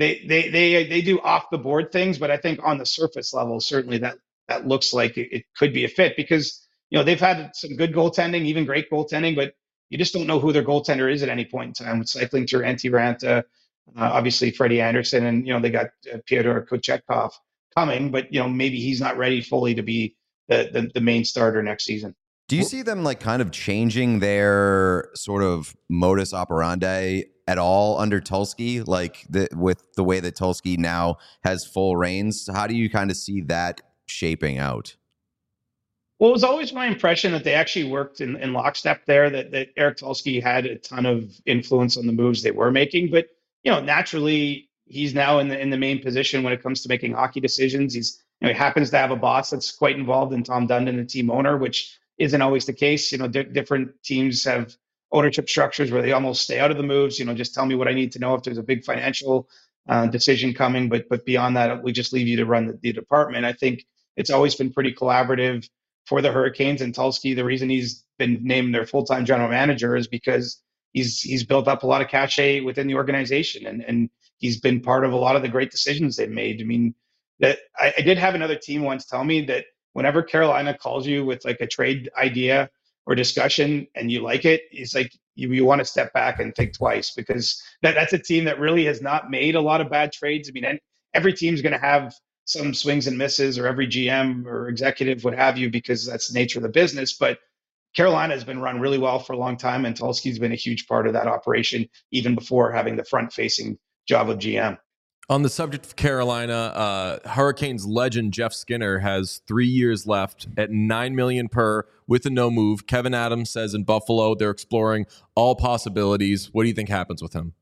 they do off the board things, but I think on the surface level, certainly that looks like it could be a fit because they've had some good goaltending, even great goaltending, but you just don't know who their goaltender is at any point in time. Cycling through Antti Ranta, obviously Freddie Anderson, and they got Pyotr Kochetkov coming, but maybe he's not ready fully to be the main starter next season. Do you see them like kind of changing their sort of modus operandi at all under Tulsky, like with the way that Tulsky now has full reins? How do you kind of see that shaping out? Well, it was always my impression that they actually worked in lockstep there, that Eric Tulsky had a ton of influence on the moves they were making. But, naturally, he's now in the main position when it comes to making hockey decisions. He happens to have a boss that's quite involved in Tom Dundon, the team owner, which isn't always the case. Different teams have ownership structures where they almost stay out of the moves. Just tell me what I need to know if there's a big financial decision coming. But beyond that, we just leave you to run the department. I think it's always been pretty collaborative for the Hurricanes, and Tulsky, the reason he's been named their full-time general manager is because he's built up a lot of cachet within the organization, and he's been part of a lot of the great decisions they've made. I mean, that I did have another team once tell me that whenever Carolina calls you with like a trade idea or discussion and you like it, it's like you want to step back and think twice, because that's a team that really has not made a lot of bad trades. I mean, every team's going to have some swings and misses, or every GM or executive, what have you, because that's the nature of the business. But Carolina has been run really well for a long time, and Tulsky's been a huge part of that operation, even before having the front-facing job of GM. On the subject of Carolina, Hurricanes legend Jeff Skinner has 3 years left at $9 million per with a no move. Kevin Adams says in Buffalo they're exploring all possibilities. What do you think happens with him?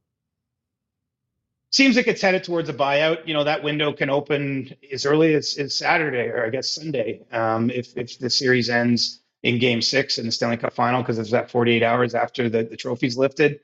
Seems like it's headed towards a buyout. That window can open as early as Saturday, or I guess Sunday, if the series ends in Game 6 in the Stanley Cup Final, because it's that 48 hours after the trophy's lifted.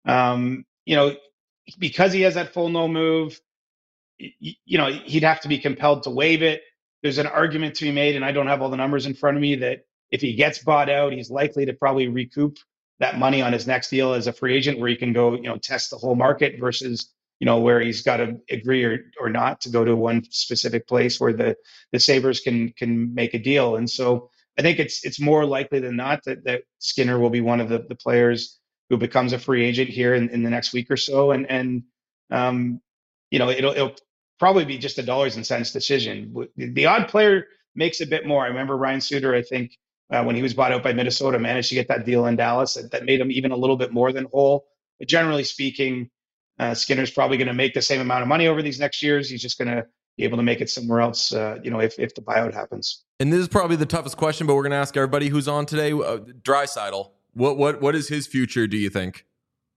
Because he has that full no move, he'd have to be compelled to waive it. There's an argument to be made, and I don't have all the numbers in front of me, that if he gets bought out, he's likely to probably recoup that money on his next deal as a free agent, where he can go, test the whole market, versus where he's got to agree or not to go to one specific place where the Sabres can make a deal. And so I think it's more likely than not that Skinner will be one of the players who becomes a free agent here in the next week or so. And it'll probably be just a dollars and cents decision. The odd player makes a bit more. I remember Ryan Suter, I think, when he was bought out by Minnesota, managed to get that deal in Dallas that made him even a little bit more than whole. But generally speaking, Skinner's probably going to make the same amount of money over these next years. He's just going to be able to make it somewhere else, if the buyout happens. And this is probably the toughest question, but we're going to ask everybody who's on today. Draisaitl, what is his future, do you think?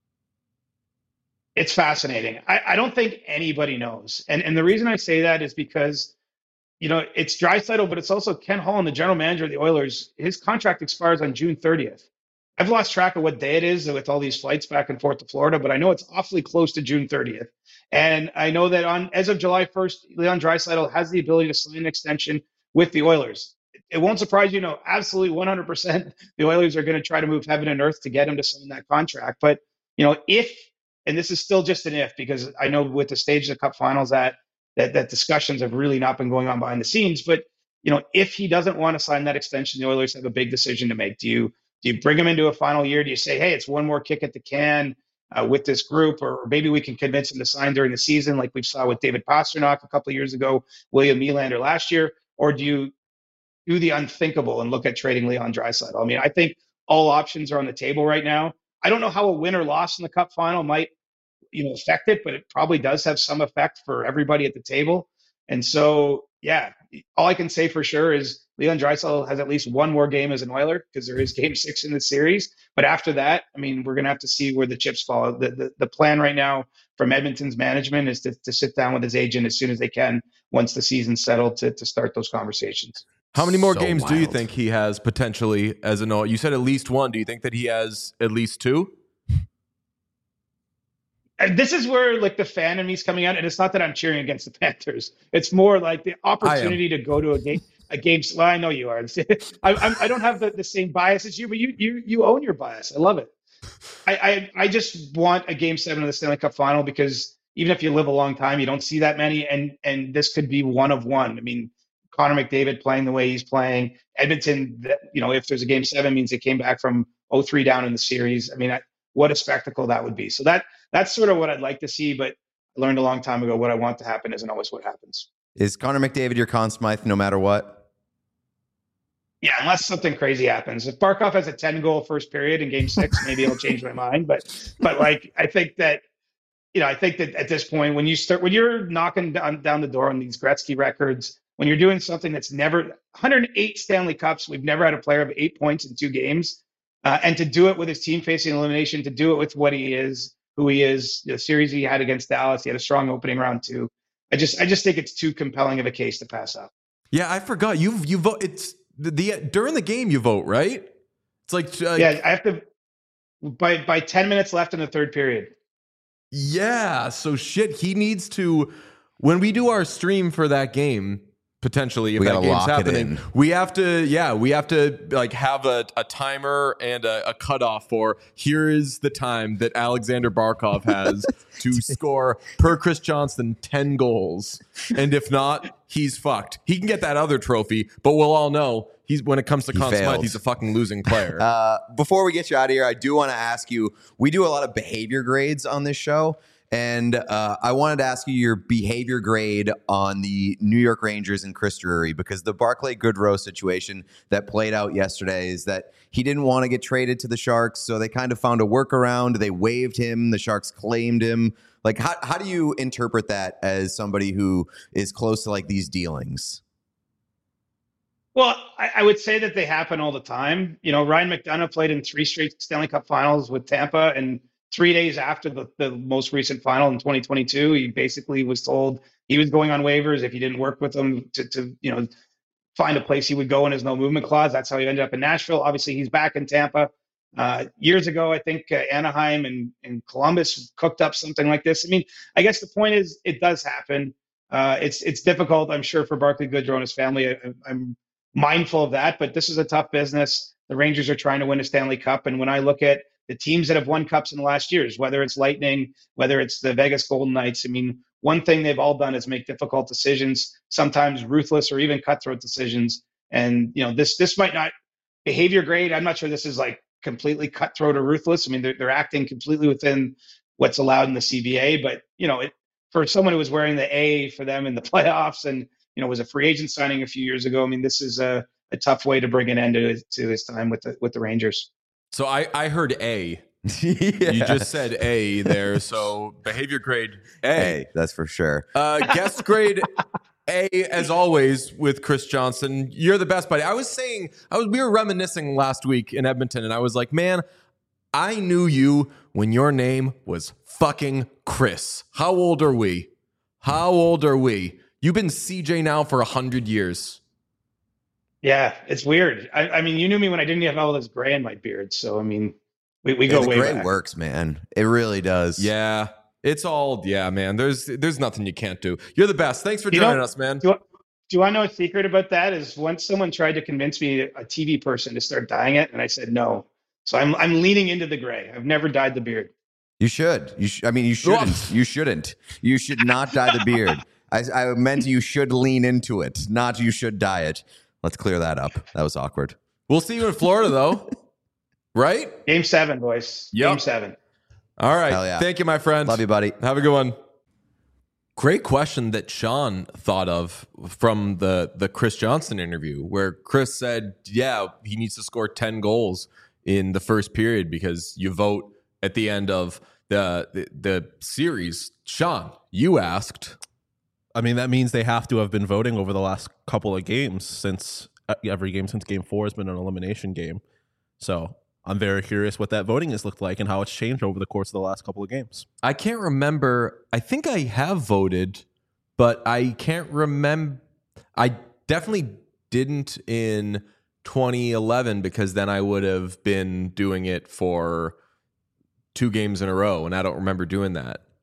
It's fascinating. I don't think anybody knows. And the reason I say that is because, it's Draisaitl, but it's also Ken Holland, the general manager of the Oilers. His contract expires on June 30th. I've lost track of what day it is with all these flights back and forth to Florida, but I know it's awfully close to June 30th. And I know that as of July 1st, Leon Draisaitl has the ability to sign an extension with the Oilers. It won't surprise you, absolutely 100%, the Oilers are going to try to move heaven and earth to get him to sign that contract. But, if, and this is still just an if, because I know with the stage of the Cup Finals that discussions have really not been going on behind the scenes. But, if he doesn't want to sign that extension, the Oilers have a big decision to make. Do you bring him into a final year? Do you say, hey, it's one more kick at the can with this group, or maybe we can convince him to sign during the season, like we saw with David Pastrnak a couple of years ago, William Nylander last year? Or do you do the unthinkable and look at trading Leon Draisaitl? I mean, I think all options are on the table right now. I don't know how a win or loss in the Cup Final might affect it, but it probably does have some effect for everybody at the table. And so, yeah, all I can say for sure is Leon Draisaitl has at least one more game as an Oiler, because there is Game 6 in the series. But after that, I mean, we're going to have to see where the chips fall. The plan right now from Edmonton's management is to sit down with his agent as soon as they can, once the season's settled, to start those conversations. How many more games do you think he has potentially as an Oiler? You said at least one. Do you think that he has at least two? And this is where like the fan in me is coming out, and it's not that I'm cheering against the Panthers. It's more like the I am. opportunity to go to a game. Well, I know you are. I don't have the same bias as you, but you own your bias. I love it. I just want a game 7 of the Stanley Cup final because even if you live a long time, you don't see that many, and this could be one of one. I mean, Connor McDavid playing the way he's playing, Edmonton. If there's a game 7, means they came back from 0-3 down in the series. I mean, what a spectacle that would be. So that's sort of what I'd like to see, but I learned a long time ago what I want to happen isn't always what happens. Is Connor McDavid your Conn Smythe no matter what? Yeah, unless something crazy happens. If Barkov has a 10-goal first period in game 6, maybe it'll change my mind. But like I think that at this point, when you're knocking down the door on these Gretzky records, when you're doing something that's never 108 Stanley Cups, we've never had a player of 8 points in 2 games, and to do it with his team facing elimination, to do it with what he is, who he is, the series he had against Dallas, he had a strong opening round too. I just think it's too compelling of a case to pass up. Yeah, I forgot you vote. It's the during the game you vote, right? It's like yeah, I have to by 10 minutes left in the third period. Yeah, so shit, he needs to, when we do our stream for that game, potentially, if that game's happening, we have to like have a timer and a cutoff for here is the time that Alexander Barkov has to score per Chris Johnston 10 goals. And if not, he's fucked. He can get that other trophy, but we'll all know when it comes to Conn Smythe, he's a fucking losing player. Before we get you out of here, I do want to ask you, we do a lot of behavior grades on this show. And I wanted to ask you your behavior grade on the New York Rangers and Chris Drury, because the Barclay Goodrow situation that played out yesterday is that he didn't want to get traded to the Sharks, so they kind of found a workaround. They waived him. The Sharks claimed him. Like, how do you interpret that as somebody who is close to like these dealings? Well, I would say that they happen all the time. Ryan McDonough played in 3 straight Stanley Cup finals with Tampa, and 3 days after the most recent final in 2022, he basically was told he was going on waivers if he didn't work with them to find a place he would go in his no movement clause. That's how he ended up in Nashville. Obviously, he's back in Tampa. Years ago, I think Anaheim and Columbus cooked up something like this. I mean, I guess the point is it does happen. It's difficult, I'm sure, for Barclay Goodrow and his family. I'm mindful of that, but this is a tough business. The Rangers are trying to win a Stanley Cup, and when I look at the teams that have won cups in the last years, whether it's Lightning, whether it's the Vegas Golden Knights, I mean, one thing they've all done is make difficult decisions, sometimes ruthless or even cutthroat decisions. And this might not behavior grade. I'm not sure this is like completely cutthroat or ruthless. I mean, they're acting completely within what's allowed in the CBA, but for someone who was wearing the A for them in the playoffs and was a free agent signing a few years ago, I mean, this is a tough way to bring an end to his time with the Rangers. So I heard A. Yeah. You just said A there. So behavior grade A. Hey, that's for sure. Guest grade A, as always, with Chris Johnston. You're the best, buddy. We were reminiscing last week in Edmonton, and I was like, man, I knew you when your name was fucking Chris. How old are we? You've been CJ now for 100 years. Yeah, it's weird. I mean, you knew me when I didn't have all this gray in my beard. So, I mean, we go way back. The gray works, man. It really does. Yeah, it's all, man. There's nothing you can't do. You're the best. Thanks for joining us, man. Do you want to know a secret about that? Is once someone tried to convince me, a TV person, to start dyeing it, and I said no. So I'm leaning into the gray. I've never dyed the beard. You should. I mean, you shouldn't. You shouldn't. You should not dye the beard. I meant you should lean into it, not you should dye it. Let's clear that up. That was awkward. We'll see you in Florida, though. Right? Game 7, boys. Yep. Game 7. All right. Yeah. Thank you, my friend. Love you, buddy. Have a good one. Great question that Sean thought of from the Chris Johnston interview, where Chris said, yeah, he needs to score 10 goals in the first period because you vote at the end of the series. Sean, you asked. I mean, that means they have to have been voting over the last couple of games since every game since game 4 has been an elimination game. So I'm very curious what that voting has looked like and how it's changed over the course of the last couple of games. I can't remember. I think I have voted, but I can't remember. I definitely didn't in 2011 because then I would have been doing it for 2 games in a row, and I don't remember doing that.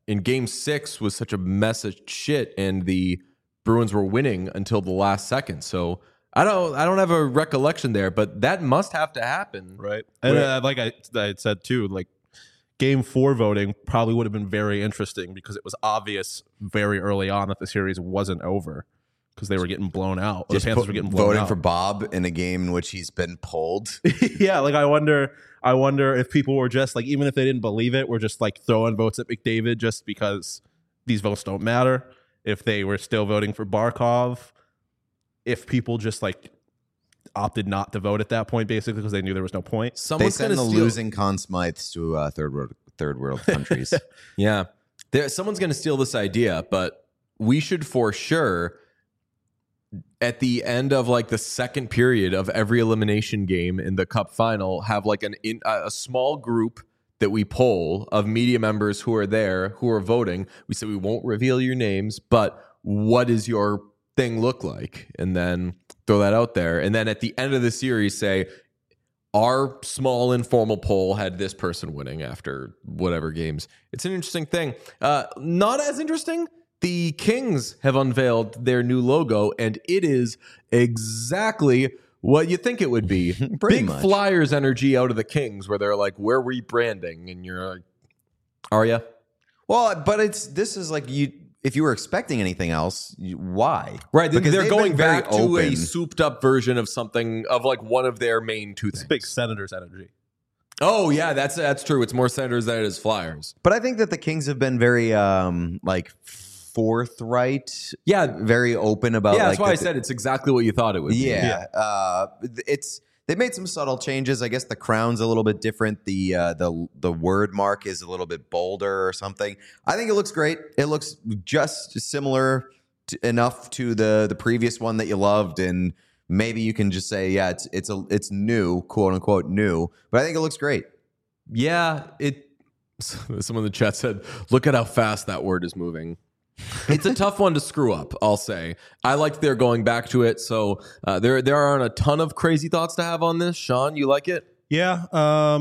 in Game 6 was such a mess of shit, and the Bruins were winning until the last second. So I don't have a recollection there, but that must have to happen. Right. And like I said too, like Game 4 voting probably would have been very interesting because it was obvious very early on that the series wasn't over because they were getting blown out. The Panthers were getting blown voting out. for Bob in a game in which he's been pulled. Yeah, like I wonder if people were just like, even if they didn't believe it, were just like throwing votes at McDavid just because these votes don't matter. If they were still voting for Barkov, if people just like opted not to vote at that point, basically because they knew there was no point. They Someone's send going the to steal. losing Conn Smythes to third world countries. Yeah, someone's going to steal this idea, but we should for sure, at the end of like the second period of every elimination game in the Cup final, have like a small group that we poll of media members who are there, who are voting. We say we won't reveal your names, but what does your thing look like? And then throw that out there. And then at the end of the series, say, our small informal poll had this person winning after whatever games. It's an interesting thing. Not as interesting. The Kings have unveiled their new logo, and it is exactly what you think it would be. Big much. Flyers energy out of the Kings, where they're like, we're rebranding, and you're like, are you? Well, but this is like you. If you were expecting anything else, why? Right, Because they're they've going been very back to a open. souped up version of something, of like one of their main two things. Big Senators energy. Oh yeah, that's true. It's more Senators than it is Flyers. But I think that the Kings have been very like forthright. Yeah, very open about. yeah. like, That's why I said it's exactly what you thought it would be. Yeah, they made some subtle changes. I guess the crown's a little bit different. The word mark is a little bit bolder or something. I think it looks great. It looks just similar enough to the previous one that you loved, and maybe you can just say, yeah, it's new, quote unquote new. But I think it looks great. Yeah, someone in the chat said, look at how fast that word is moving. It's a tough one to screw up, I'll say. I liked their going back to it, so there aren't a ton of crazy thoughts to have on this. Sean, you like it? Yeah,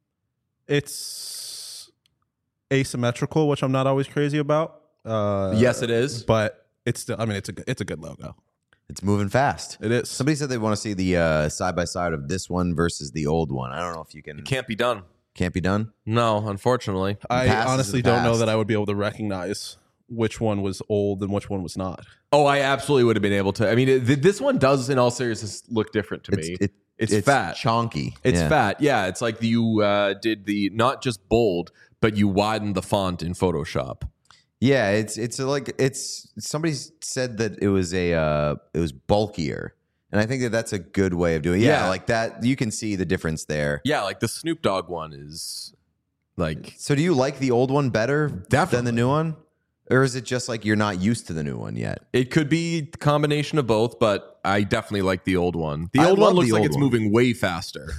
it's asymmetrical, which I'm not always crazy about. Yes, it is. But it's still, I mean, it's a good logo. It's moving fast. It is. Somebody said they want to see the side by side of this one versus the old one. I don't know if you can. It can't be done. Can't be done. No, unfortunately. I Past is honestly the don't know past. that I would be able to recognize which one was old and which one was not. Oh, I absolutely would have been able to. I mean, this one does, in all seriousness, look different to me. It's fat. chonky. It's Yeah. fat. Yeah, it's like you did the not just bold, but you widened the font in Photoshop. Yeah, it's somebody said that it was bulkier, and I think that that's a good way of doing it. Yeah, Yeah. like that you can see the difference there. Yeah, like the Snoop Dogg one is like So do you like the old one better Definitely. than the new one? Or is it just like you're not used to the new one yet? it could be a combination of both, but I definitely like the old one. The I old love one looks the like old it's one. moving way faster.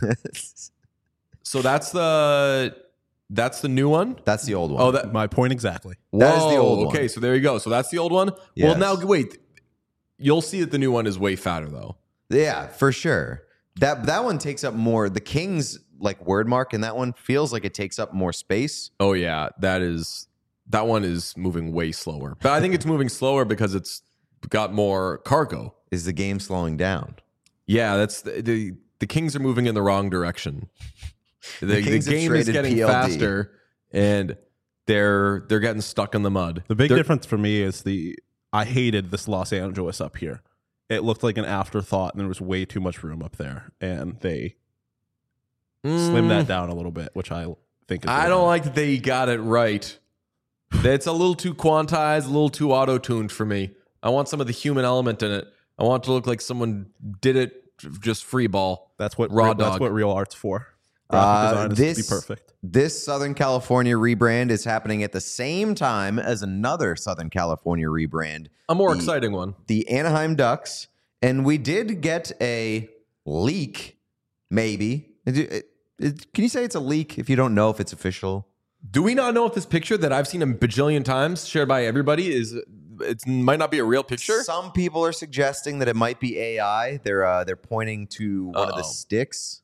So that's the new one. That's the old one. Oh, that My point exactly. That is the Whoa, old one. Okay, so there you go. So that's the old one. Well, Yes. now wait. You'll see that the new one is way fatter though. Yeah, for sure. That one takes up more. The King's like word mark in that one feels like it takes up more space. Oh yeah, that one is moving way slower. But I think it's moving slower because it's got more cargo. Is the game slowing down? Yeah, that's the Kings are moving in the wrong direction. The Kings have game is traded getting PLD. faster, and they're getting stuck in the mud. The big They're- difference for me is I hated this Los Angeles up here. It looked like an afterthought, and there was way too much room up there, and they slimmed that down a little bit, which I think is I really don't bad. like that they got it right. It's a little too quantized, a little too auto-tuned for me. I want some of the human element in it. I want it to look like someone did it just free ball. That's what Raw That's dog. what real art's for. Graphic design is to this be perfect. This Southern California rebrand is happening at the same time as another Southern California rebrand, A more exciting one. the Anaheim Ducks, and we did get a leak. Maybe can you say it's a leak if you don't know if it's official? Do we not know if this picture that I've seen a bajillion times shared by everybody it might not be a real picture? Some people are suggesting that it might be AI. They're pointing to one of the Uh-oh. sticks.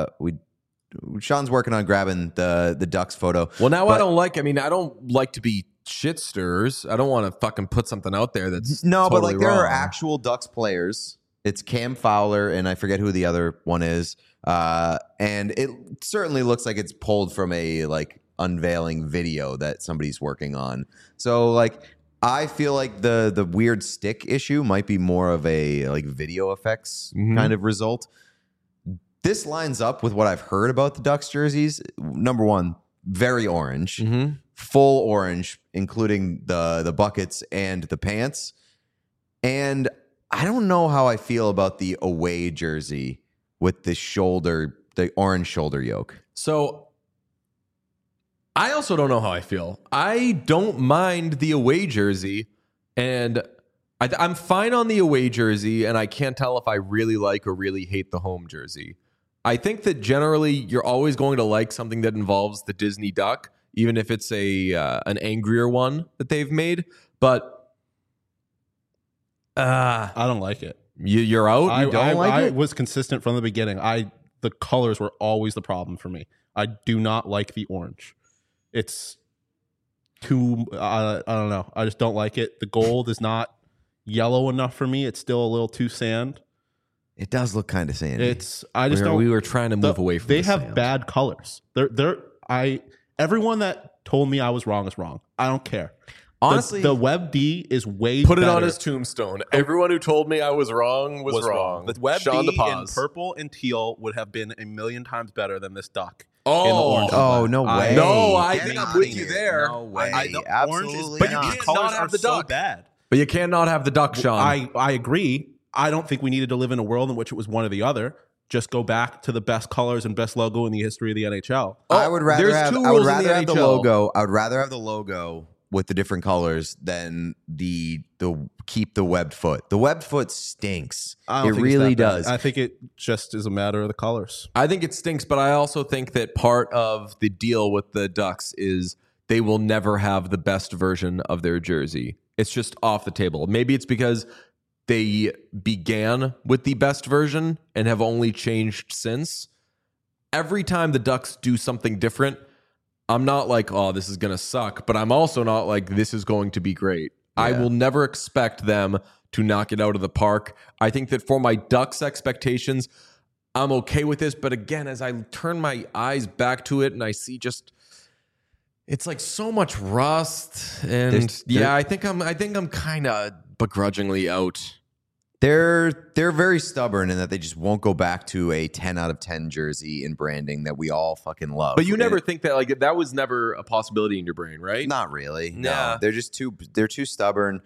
Sean's working on grabbing the Ducks photo. Well, now But- I don't like to be shit stirs. I don't want to fucking put something out there that's No, but totally like there are wrong. actual Ducks players. It's Cam Fowler, and I forget who the other one is. And it certainly looks like it's pulled from a like unveiling video that somebody's working on. So like I feel like the weird stick issue might be more of a like video effects kind of result. This lines up with what I've heard about the Ducks jerseys. Number one, very orange, full orange, including the buckets and the pants. And I don't know how I feel about the away jersey with the orange shoulder yoke. So I also don't know how I feel. I don't mind the away jersey, and I'm fine on the away jersey, and I can't tell if I really like or really hate the home jersey. I think that generally you're always going to like something that involves the Disney duck, even if it's an angrier one that they've made. But I don't like it. you're out. You don't like I it. was consistent from the beginning. The colors were always the problem for me. I do not like the orange. It's too. I don't know. I just don't like it. The gold is not yellow enough for me. It's still a little too sand. It does look kind of sandy. We were trying to move away from. They the have sand. bad colors. Everyone that told me I was wrong is wrong. I don't care. Honestly, the Web D is way Put it better. on his tombstone. Everyone who told me I was wrong was wrong. The Web Sean D in DePaz. purple and teal would have been a million times better than this duck. Oh. in the orange. Oh, no way. No, I Get think I'm outta with you here. there. No way. The orange is Absolutely But you bad. not. The can't colors not have are the so duck. bad. But you cannot have the duck, Sean. I agree. I don't think we needed to live in a world in which it was one or the other. Just go back to the best colors and best logo in the history of the NHL. I would rather there's have, two I would rules in rather have the NHL. logo. I would rather have the logo with the different colors than the keep the webbed foot. The webbed foot stinks. I It don't think it's really that bad. does. I think it just is a matter of the colors. I think it stinks, but I also think that part of the deal with the Ducks is they will never have the best version of their jersey. It's just off the table. Maybe it's because they began with the best version and have only changed since. Every time the Ducks do something different, I'm not like, oh, this is going to suck, but I'm also not like, this is going to be great. I will never expect them to knock it out of the park. I think that for my Ducks expectations, I'm okay with this. But again, as I turn my eyes back to it and I see just, it's like so much rust. And I think I'm kind of begrudgingly out. They're very stubborn in that they just won't go back to a 10 out of 10 jersey in branding that we all fucking love. But you never think that, like, that was never a possibility in your brain, right? Not really. Nah. No, they're just they're too stubborn.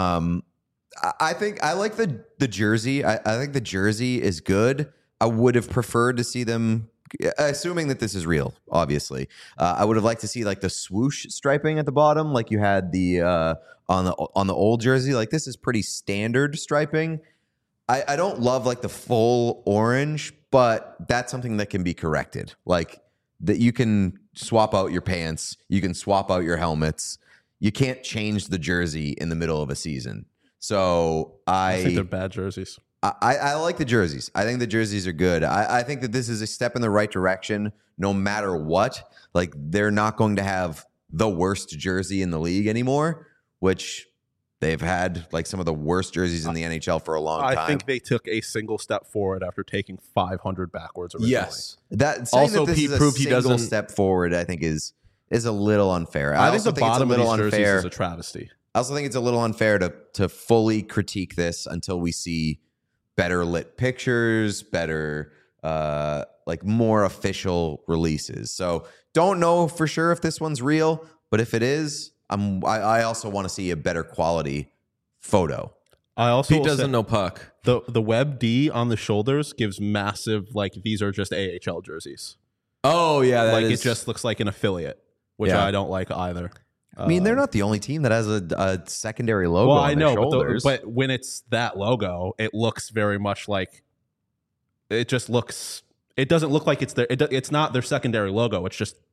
I think I like the jersey. I think the jersey is good. I would have preferred to see them, assuming that this is real, obviously. I would have liked to see like the swoosh striping at the bottom, like you had the on the old jersey. Like this is pretty standard striping. I don't love like the full orange, but that's something that can be corrected. Like that you can swap out your pants, you can swap out your helmets. You can't change the jersey in the middle of a season. So I think they're bad jerseys. I like the jerseys. I think the jerseys are good. I think that this is a step in the right direction no matter what. Like they're not going to have the worst jersey in the league anymore, which they've had like some of the worst jerseys in the NHL for a long time. I think they took a single step forward after taking 500 backwards originally. Yes. that saying Also, that this Pete is a proved he single doesn't- step forward, I think is a little unfair. I think also the it's a bottom of little these jerseys unfair. is a travesty. I also think it's a little unfair to fully critique this until we see better lit pictures, better like more official releases. So don't know for sure if this one's real, but if it is, I also want to see a better quality photo. I also Pete will doesn't say know puck. the Web D on the shoulders gives massive, like these are just AHL jerseys. Oh, yeah. That Like is, it just looks like an affiliate, which Yeah. I don't like either. I mean, they're not the only team that has a secondary logo Well, on I their know, shoulders. but when it's that logo, it looks very much like it just looks. It doesn't look like it's their. It's not their secondary logo. It's just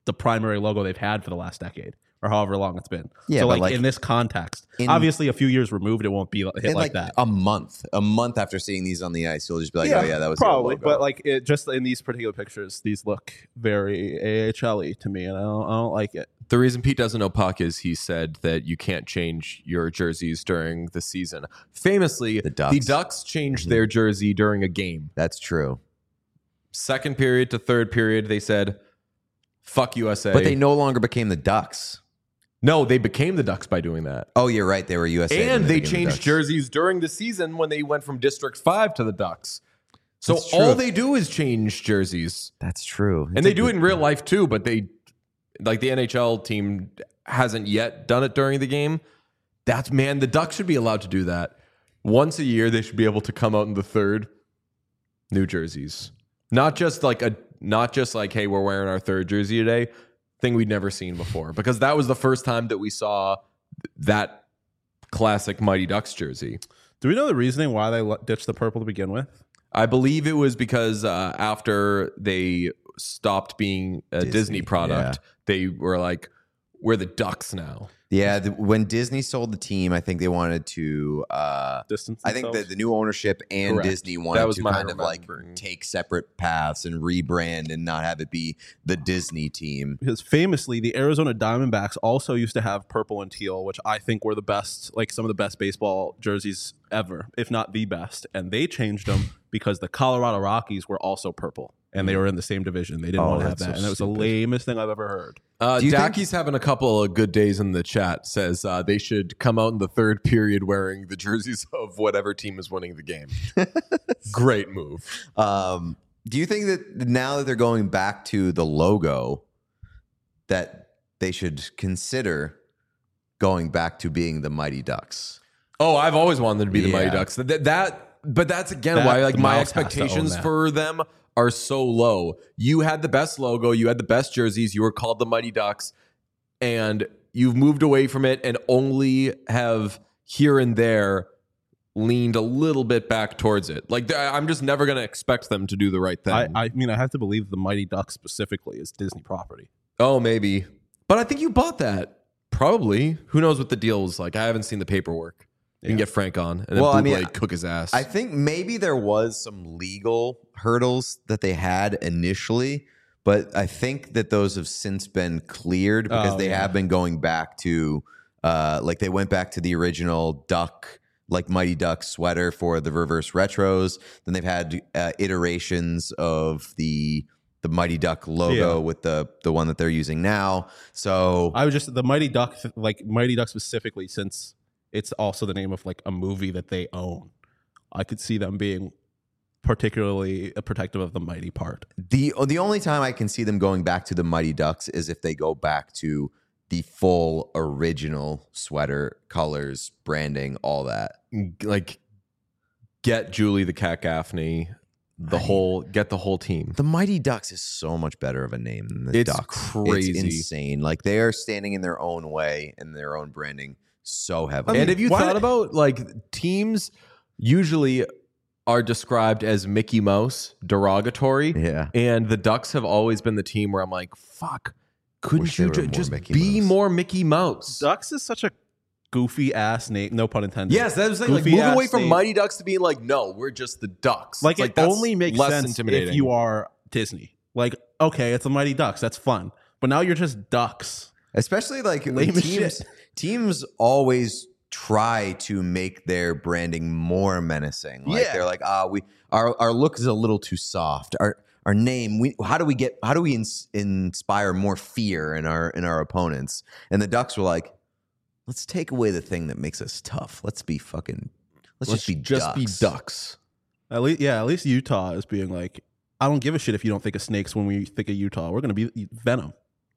the primary logo they've had for the last decade or however long it's been. Yeah, so but like in this context, in- obviously a few years removed, it won't be hit in like that. a month after seeing these on the ice, you'll just be like, oh yeah, that was the probably. logo. But like it, just in these particular pictures, these look very AHL-y to me, and I don't like it. The reason Pete doesn't know puck is he said that you can't change your jerseys during the season. Famously, the Ducks changed their jersey during a game. That's true. Second period to third period, they said, fuck USA. But they no longer became the Ducks. No, they became the Ducks by doing that. Oh, you're right. They were USA. And they became the changed Ducks. jerseys during the season when they went from District 5 to the Ducks. So That's true. all they do is change jerseys. That's true. And they do it in real life too, but they, like the NHL team hasn't yet done it during the game. The Ducks should be allowed to do that. Once a year, they should be able to come out in the third, new jerseys. Not just like, hey, we're wearing our third jersey today. Thing we'd never seen before, because that was the first time that we saw that classic Mighty Ducks jersey. Do we know the reasoning why they ditched the purple to begin with? I believe it was because after they stopped being a Disney product, they were like, we're the Ducks now. Yeah, when Disney sold the team, I think they wanted to Distance I think themselves? that the new ownership and Correct. Disney That wanted was to my kind of like remembering. take separate paths and rebrand and not have it be the Disney team. Because famously, the Arizona Diamondbacks also used to have purple and teal, which I think were the best, like some of the best baseball jerseys ever, if not the best. And they changed them because the Colorado Rockies were also purple, and they were in the same division. They didn't want to have that's that, so and it was stupid. the lamest thing I've ever heard. Do you think- Daki's having a couple of good days in the chat. Says they should come out in the third period wearing the jerseys of whatever team is winning the game. Great move. Do you think that now that they're going back to the logo, that they should consider going back to being the Mighty Ducks? Oh, I've always wanted them to be the Mighty Yeah. Ducks. But that's again That- why like the my Mouse has to own expectations that. for them are so low. You had the best logo, you had the best jerseys, you were called the Mighty Ducks, and you've moved away from it and only have here and there leaned a little bit back towards it. Like I'm just never going to expect them to do the right thing. I mean, I have to believe the Mighty Ducks specifically is Disney property. Oh, maybe. But I think you bought that. Probably. Who knows what the deal was like? I haven't seen the paperwork. You can get Frank on and then Well, I bootleg mean, cook his ass. I think maybe there was some legal hurdles that they had initially, but I think that those have since been cleared because they have been going back to like they went back to the original Duck, like Mighty Duck sweater for the reverse retros. Then they've had iterations of the Mighty Duck logo with the one that they're using now. So I was just the Mighty Duck, like Mighty Duck specifically, since it's also the name of like a movie that they own. I could see them being particularly protective of the Mighty part. the only time I can see them going back to the Mighty Ducks is if they go back to the full original sweater, colors, branding, all that. like get Julie the Cat Gaffney, get the whole team. The Mighty Ducks is so much better of a name than the It's Ducks. crazy. It's insane. Like they are standing in their own way and their own branding so heavily. And have you why- thought about like teams usually are described as Mickey Mouse, derogatory. Yeah. And the Ducks have always been the team where I'm like, fuck, couldn't Wish they you were more just Mickey be Mouse. more Mickey Mouse? Ducks is such a goofy ass name. No pun intended. Yes, that was like Goofy move ass away from name. Mighty Ducks to being like, no, we're just the Ducks. Like It's it that's only makes less sense intimidating. if you are Disney. Like, okay, it's the Mighty Ducks. That's fun. But now you're just Ducks. Especially like Lame as teams always try to make their branding more menacing. Like they're like, our look is a little too soft. Our name, how do we inspire more fear in our opponents? And the Ducks were like, let's take away the thing that makes us tough. Let's just be Ducks. At least Utah is being like, I don't give a shit if you don't think of snakes when we think of Utah. We're gonna be Venom.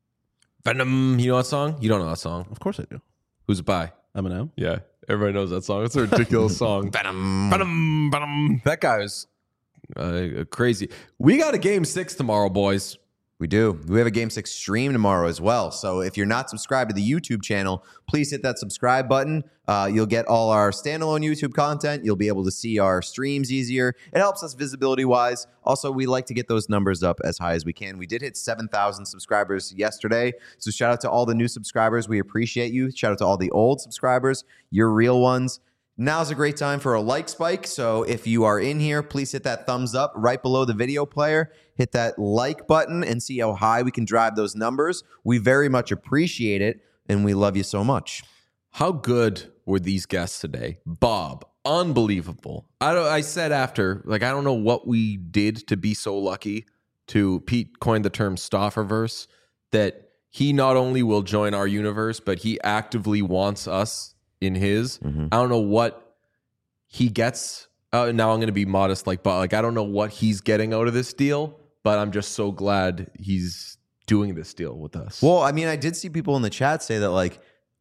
Venom, you know that song? You don't know that song. Of course I do. Who's it by? Eminem. Yeah, everybody knows that song. It's a ridiculous song. Venom, Venom, Venom. That guy is crazy. We got a game 6 tomorrow, boys. We do. We have a Game 6 stream tomorrow as well. So if you're not subscribed to the YouTube channel, please hit that subscribe button. You'll get all our standalone YouTube content. You'll be able to see our streams easier. It helps us visibility-wise. Also, we like to get those numbers up as high as we can. We did hit 7,000 subscribers yesterday. So shout out to all the new subscribers. We appreciate you. Shout out to all the old subscribers. You're real ones. Now's a great time for a like spike. So if you are in here, please hit that thumbs up right below the video player. Hit that like button and see how high we can drive those numbers. We very much appreciate it, and we love you so much. How good were these guests today? Bob, unbelievable. I said after, I don't know what we did to be so lucky to, Pete coined the term Stofferverse, that he not only will join our universe, but he actively wants us in his. I don't know what he gets. Now I'm going to be modest, but I don't know what he's getting out of this deal, but I'm just so glad he's doing this deal with us. Well, I mean, I did see people in the chat say that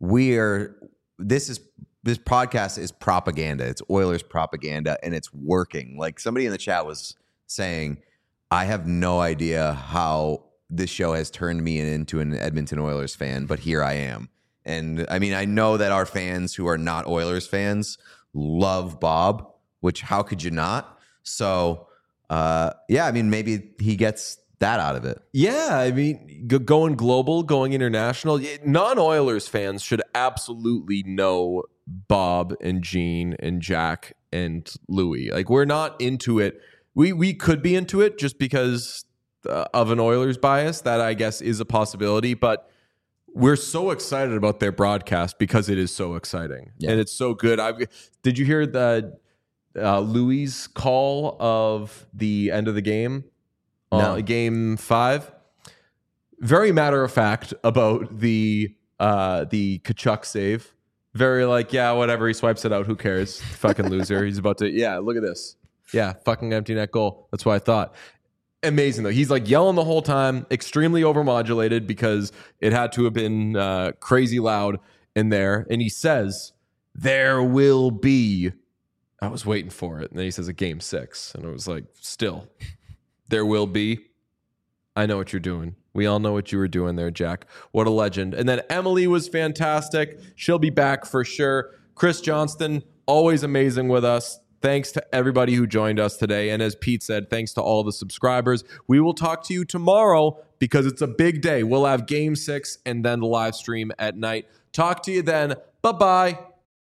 this podcast is propaganda. It's Oilers propaganda, and it's working. Somebody in the chat was saying, I have no idea how this show has turned me into an Edmonton Oilers fan, but here I am. And I mean, I know that our fans who are not Oilers fans love Bob, which how could you not? So, I mean, maybe he gets that out of it. Yeah, I mean, going global, going international, non-Oilers fans should absolutely know Bob and Gene and Jack and Louie. We're not into it. We could be into it just because of an Oilers bias. That, I guess, is a possibility, but we're so excited about their broadcast because it is so exciting and it's so good. Did you hear the Louis' call of the end of the game? No. Game 5? Very matter of fact about the Tkachuk save. Very whatever. He swipes it out. Who cares? Fucking loser. He's about to. Yeah, look at this. Yeah, fucking empty net goal. That's what I thought. Amazing though. He's yelling the whole time, extremely overmodulated because it had to have been crazy loud in there. And he says, "There will be." I was waiting for it, and then he says, "A game 6," and it was still, there will be. I know what you're doing. We all know what you were doing there, Jack. What a legend. And then Emily was fantastic. She'll be back for sure. Chris Johnston, always amazing with us. Thanks to everybody who joined us today. And as Pete said, thanks to all the subscribers. We will talk to you tomorrow because it's a big day. We'll have Game 6 and then the live stream at night. Talk to you then. Bye-bye.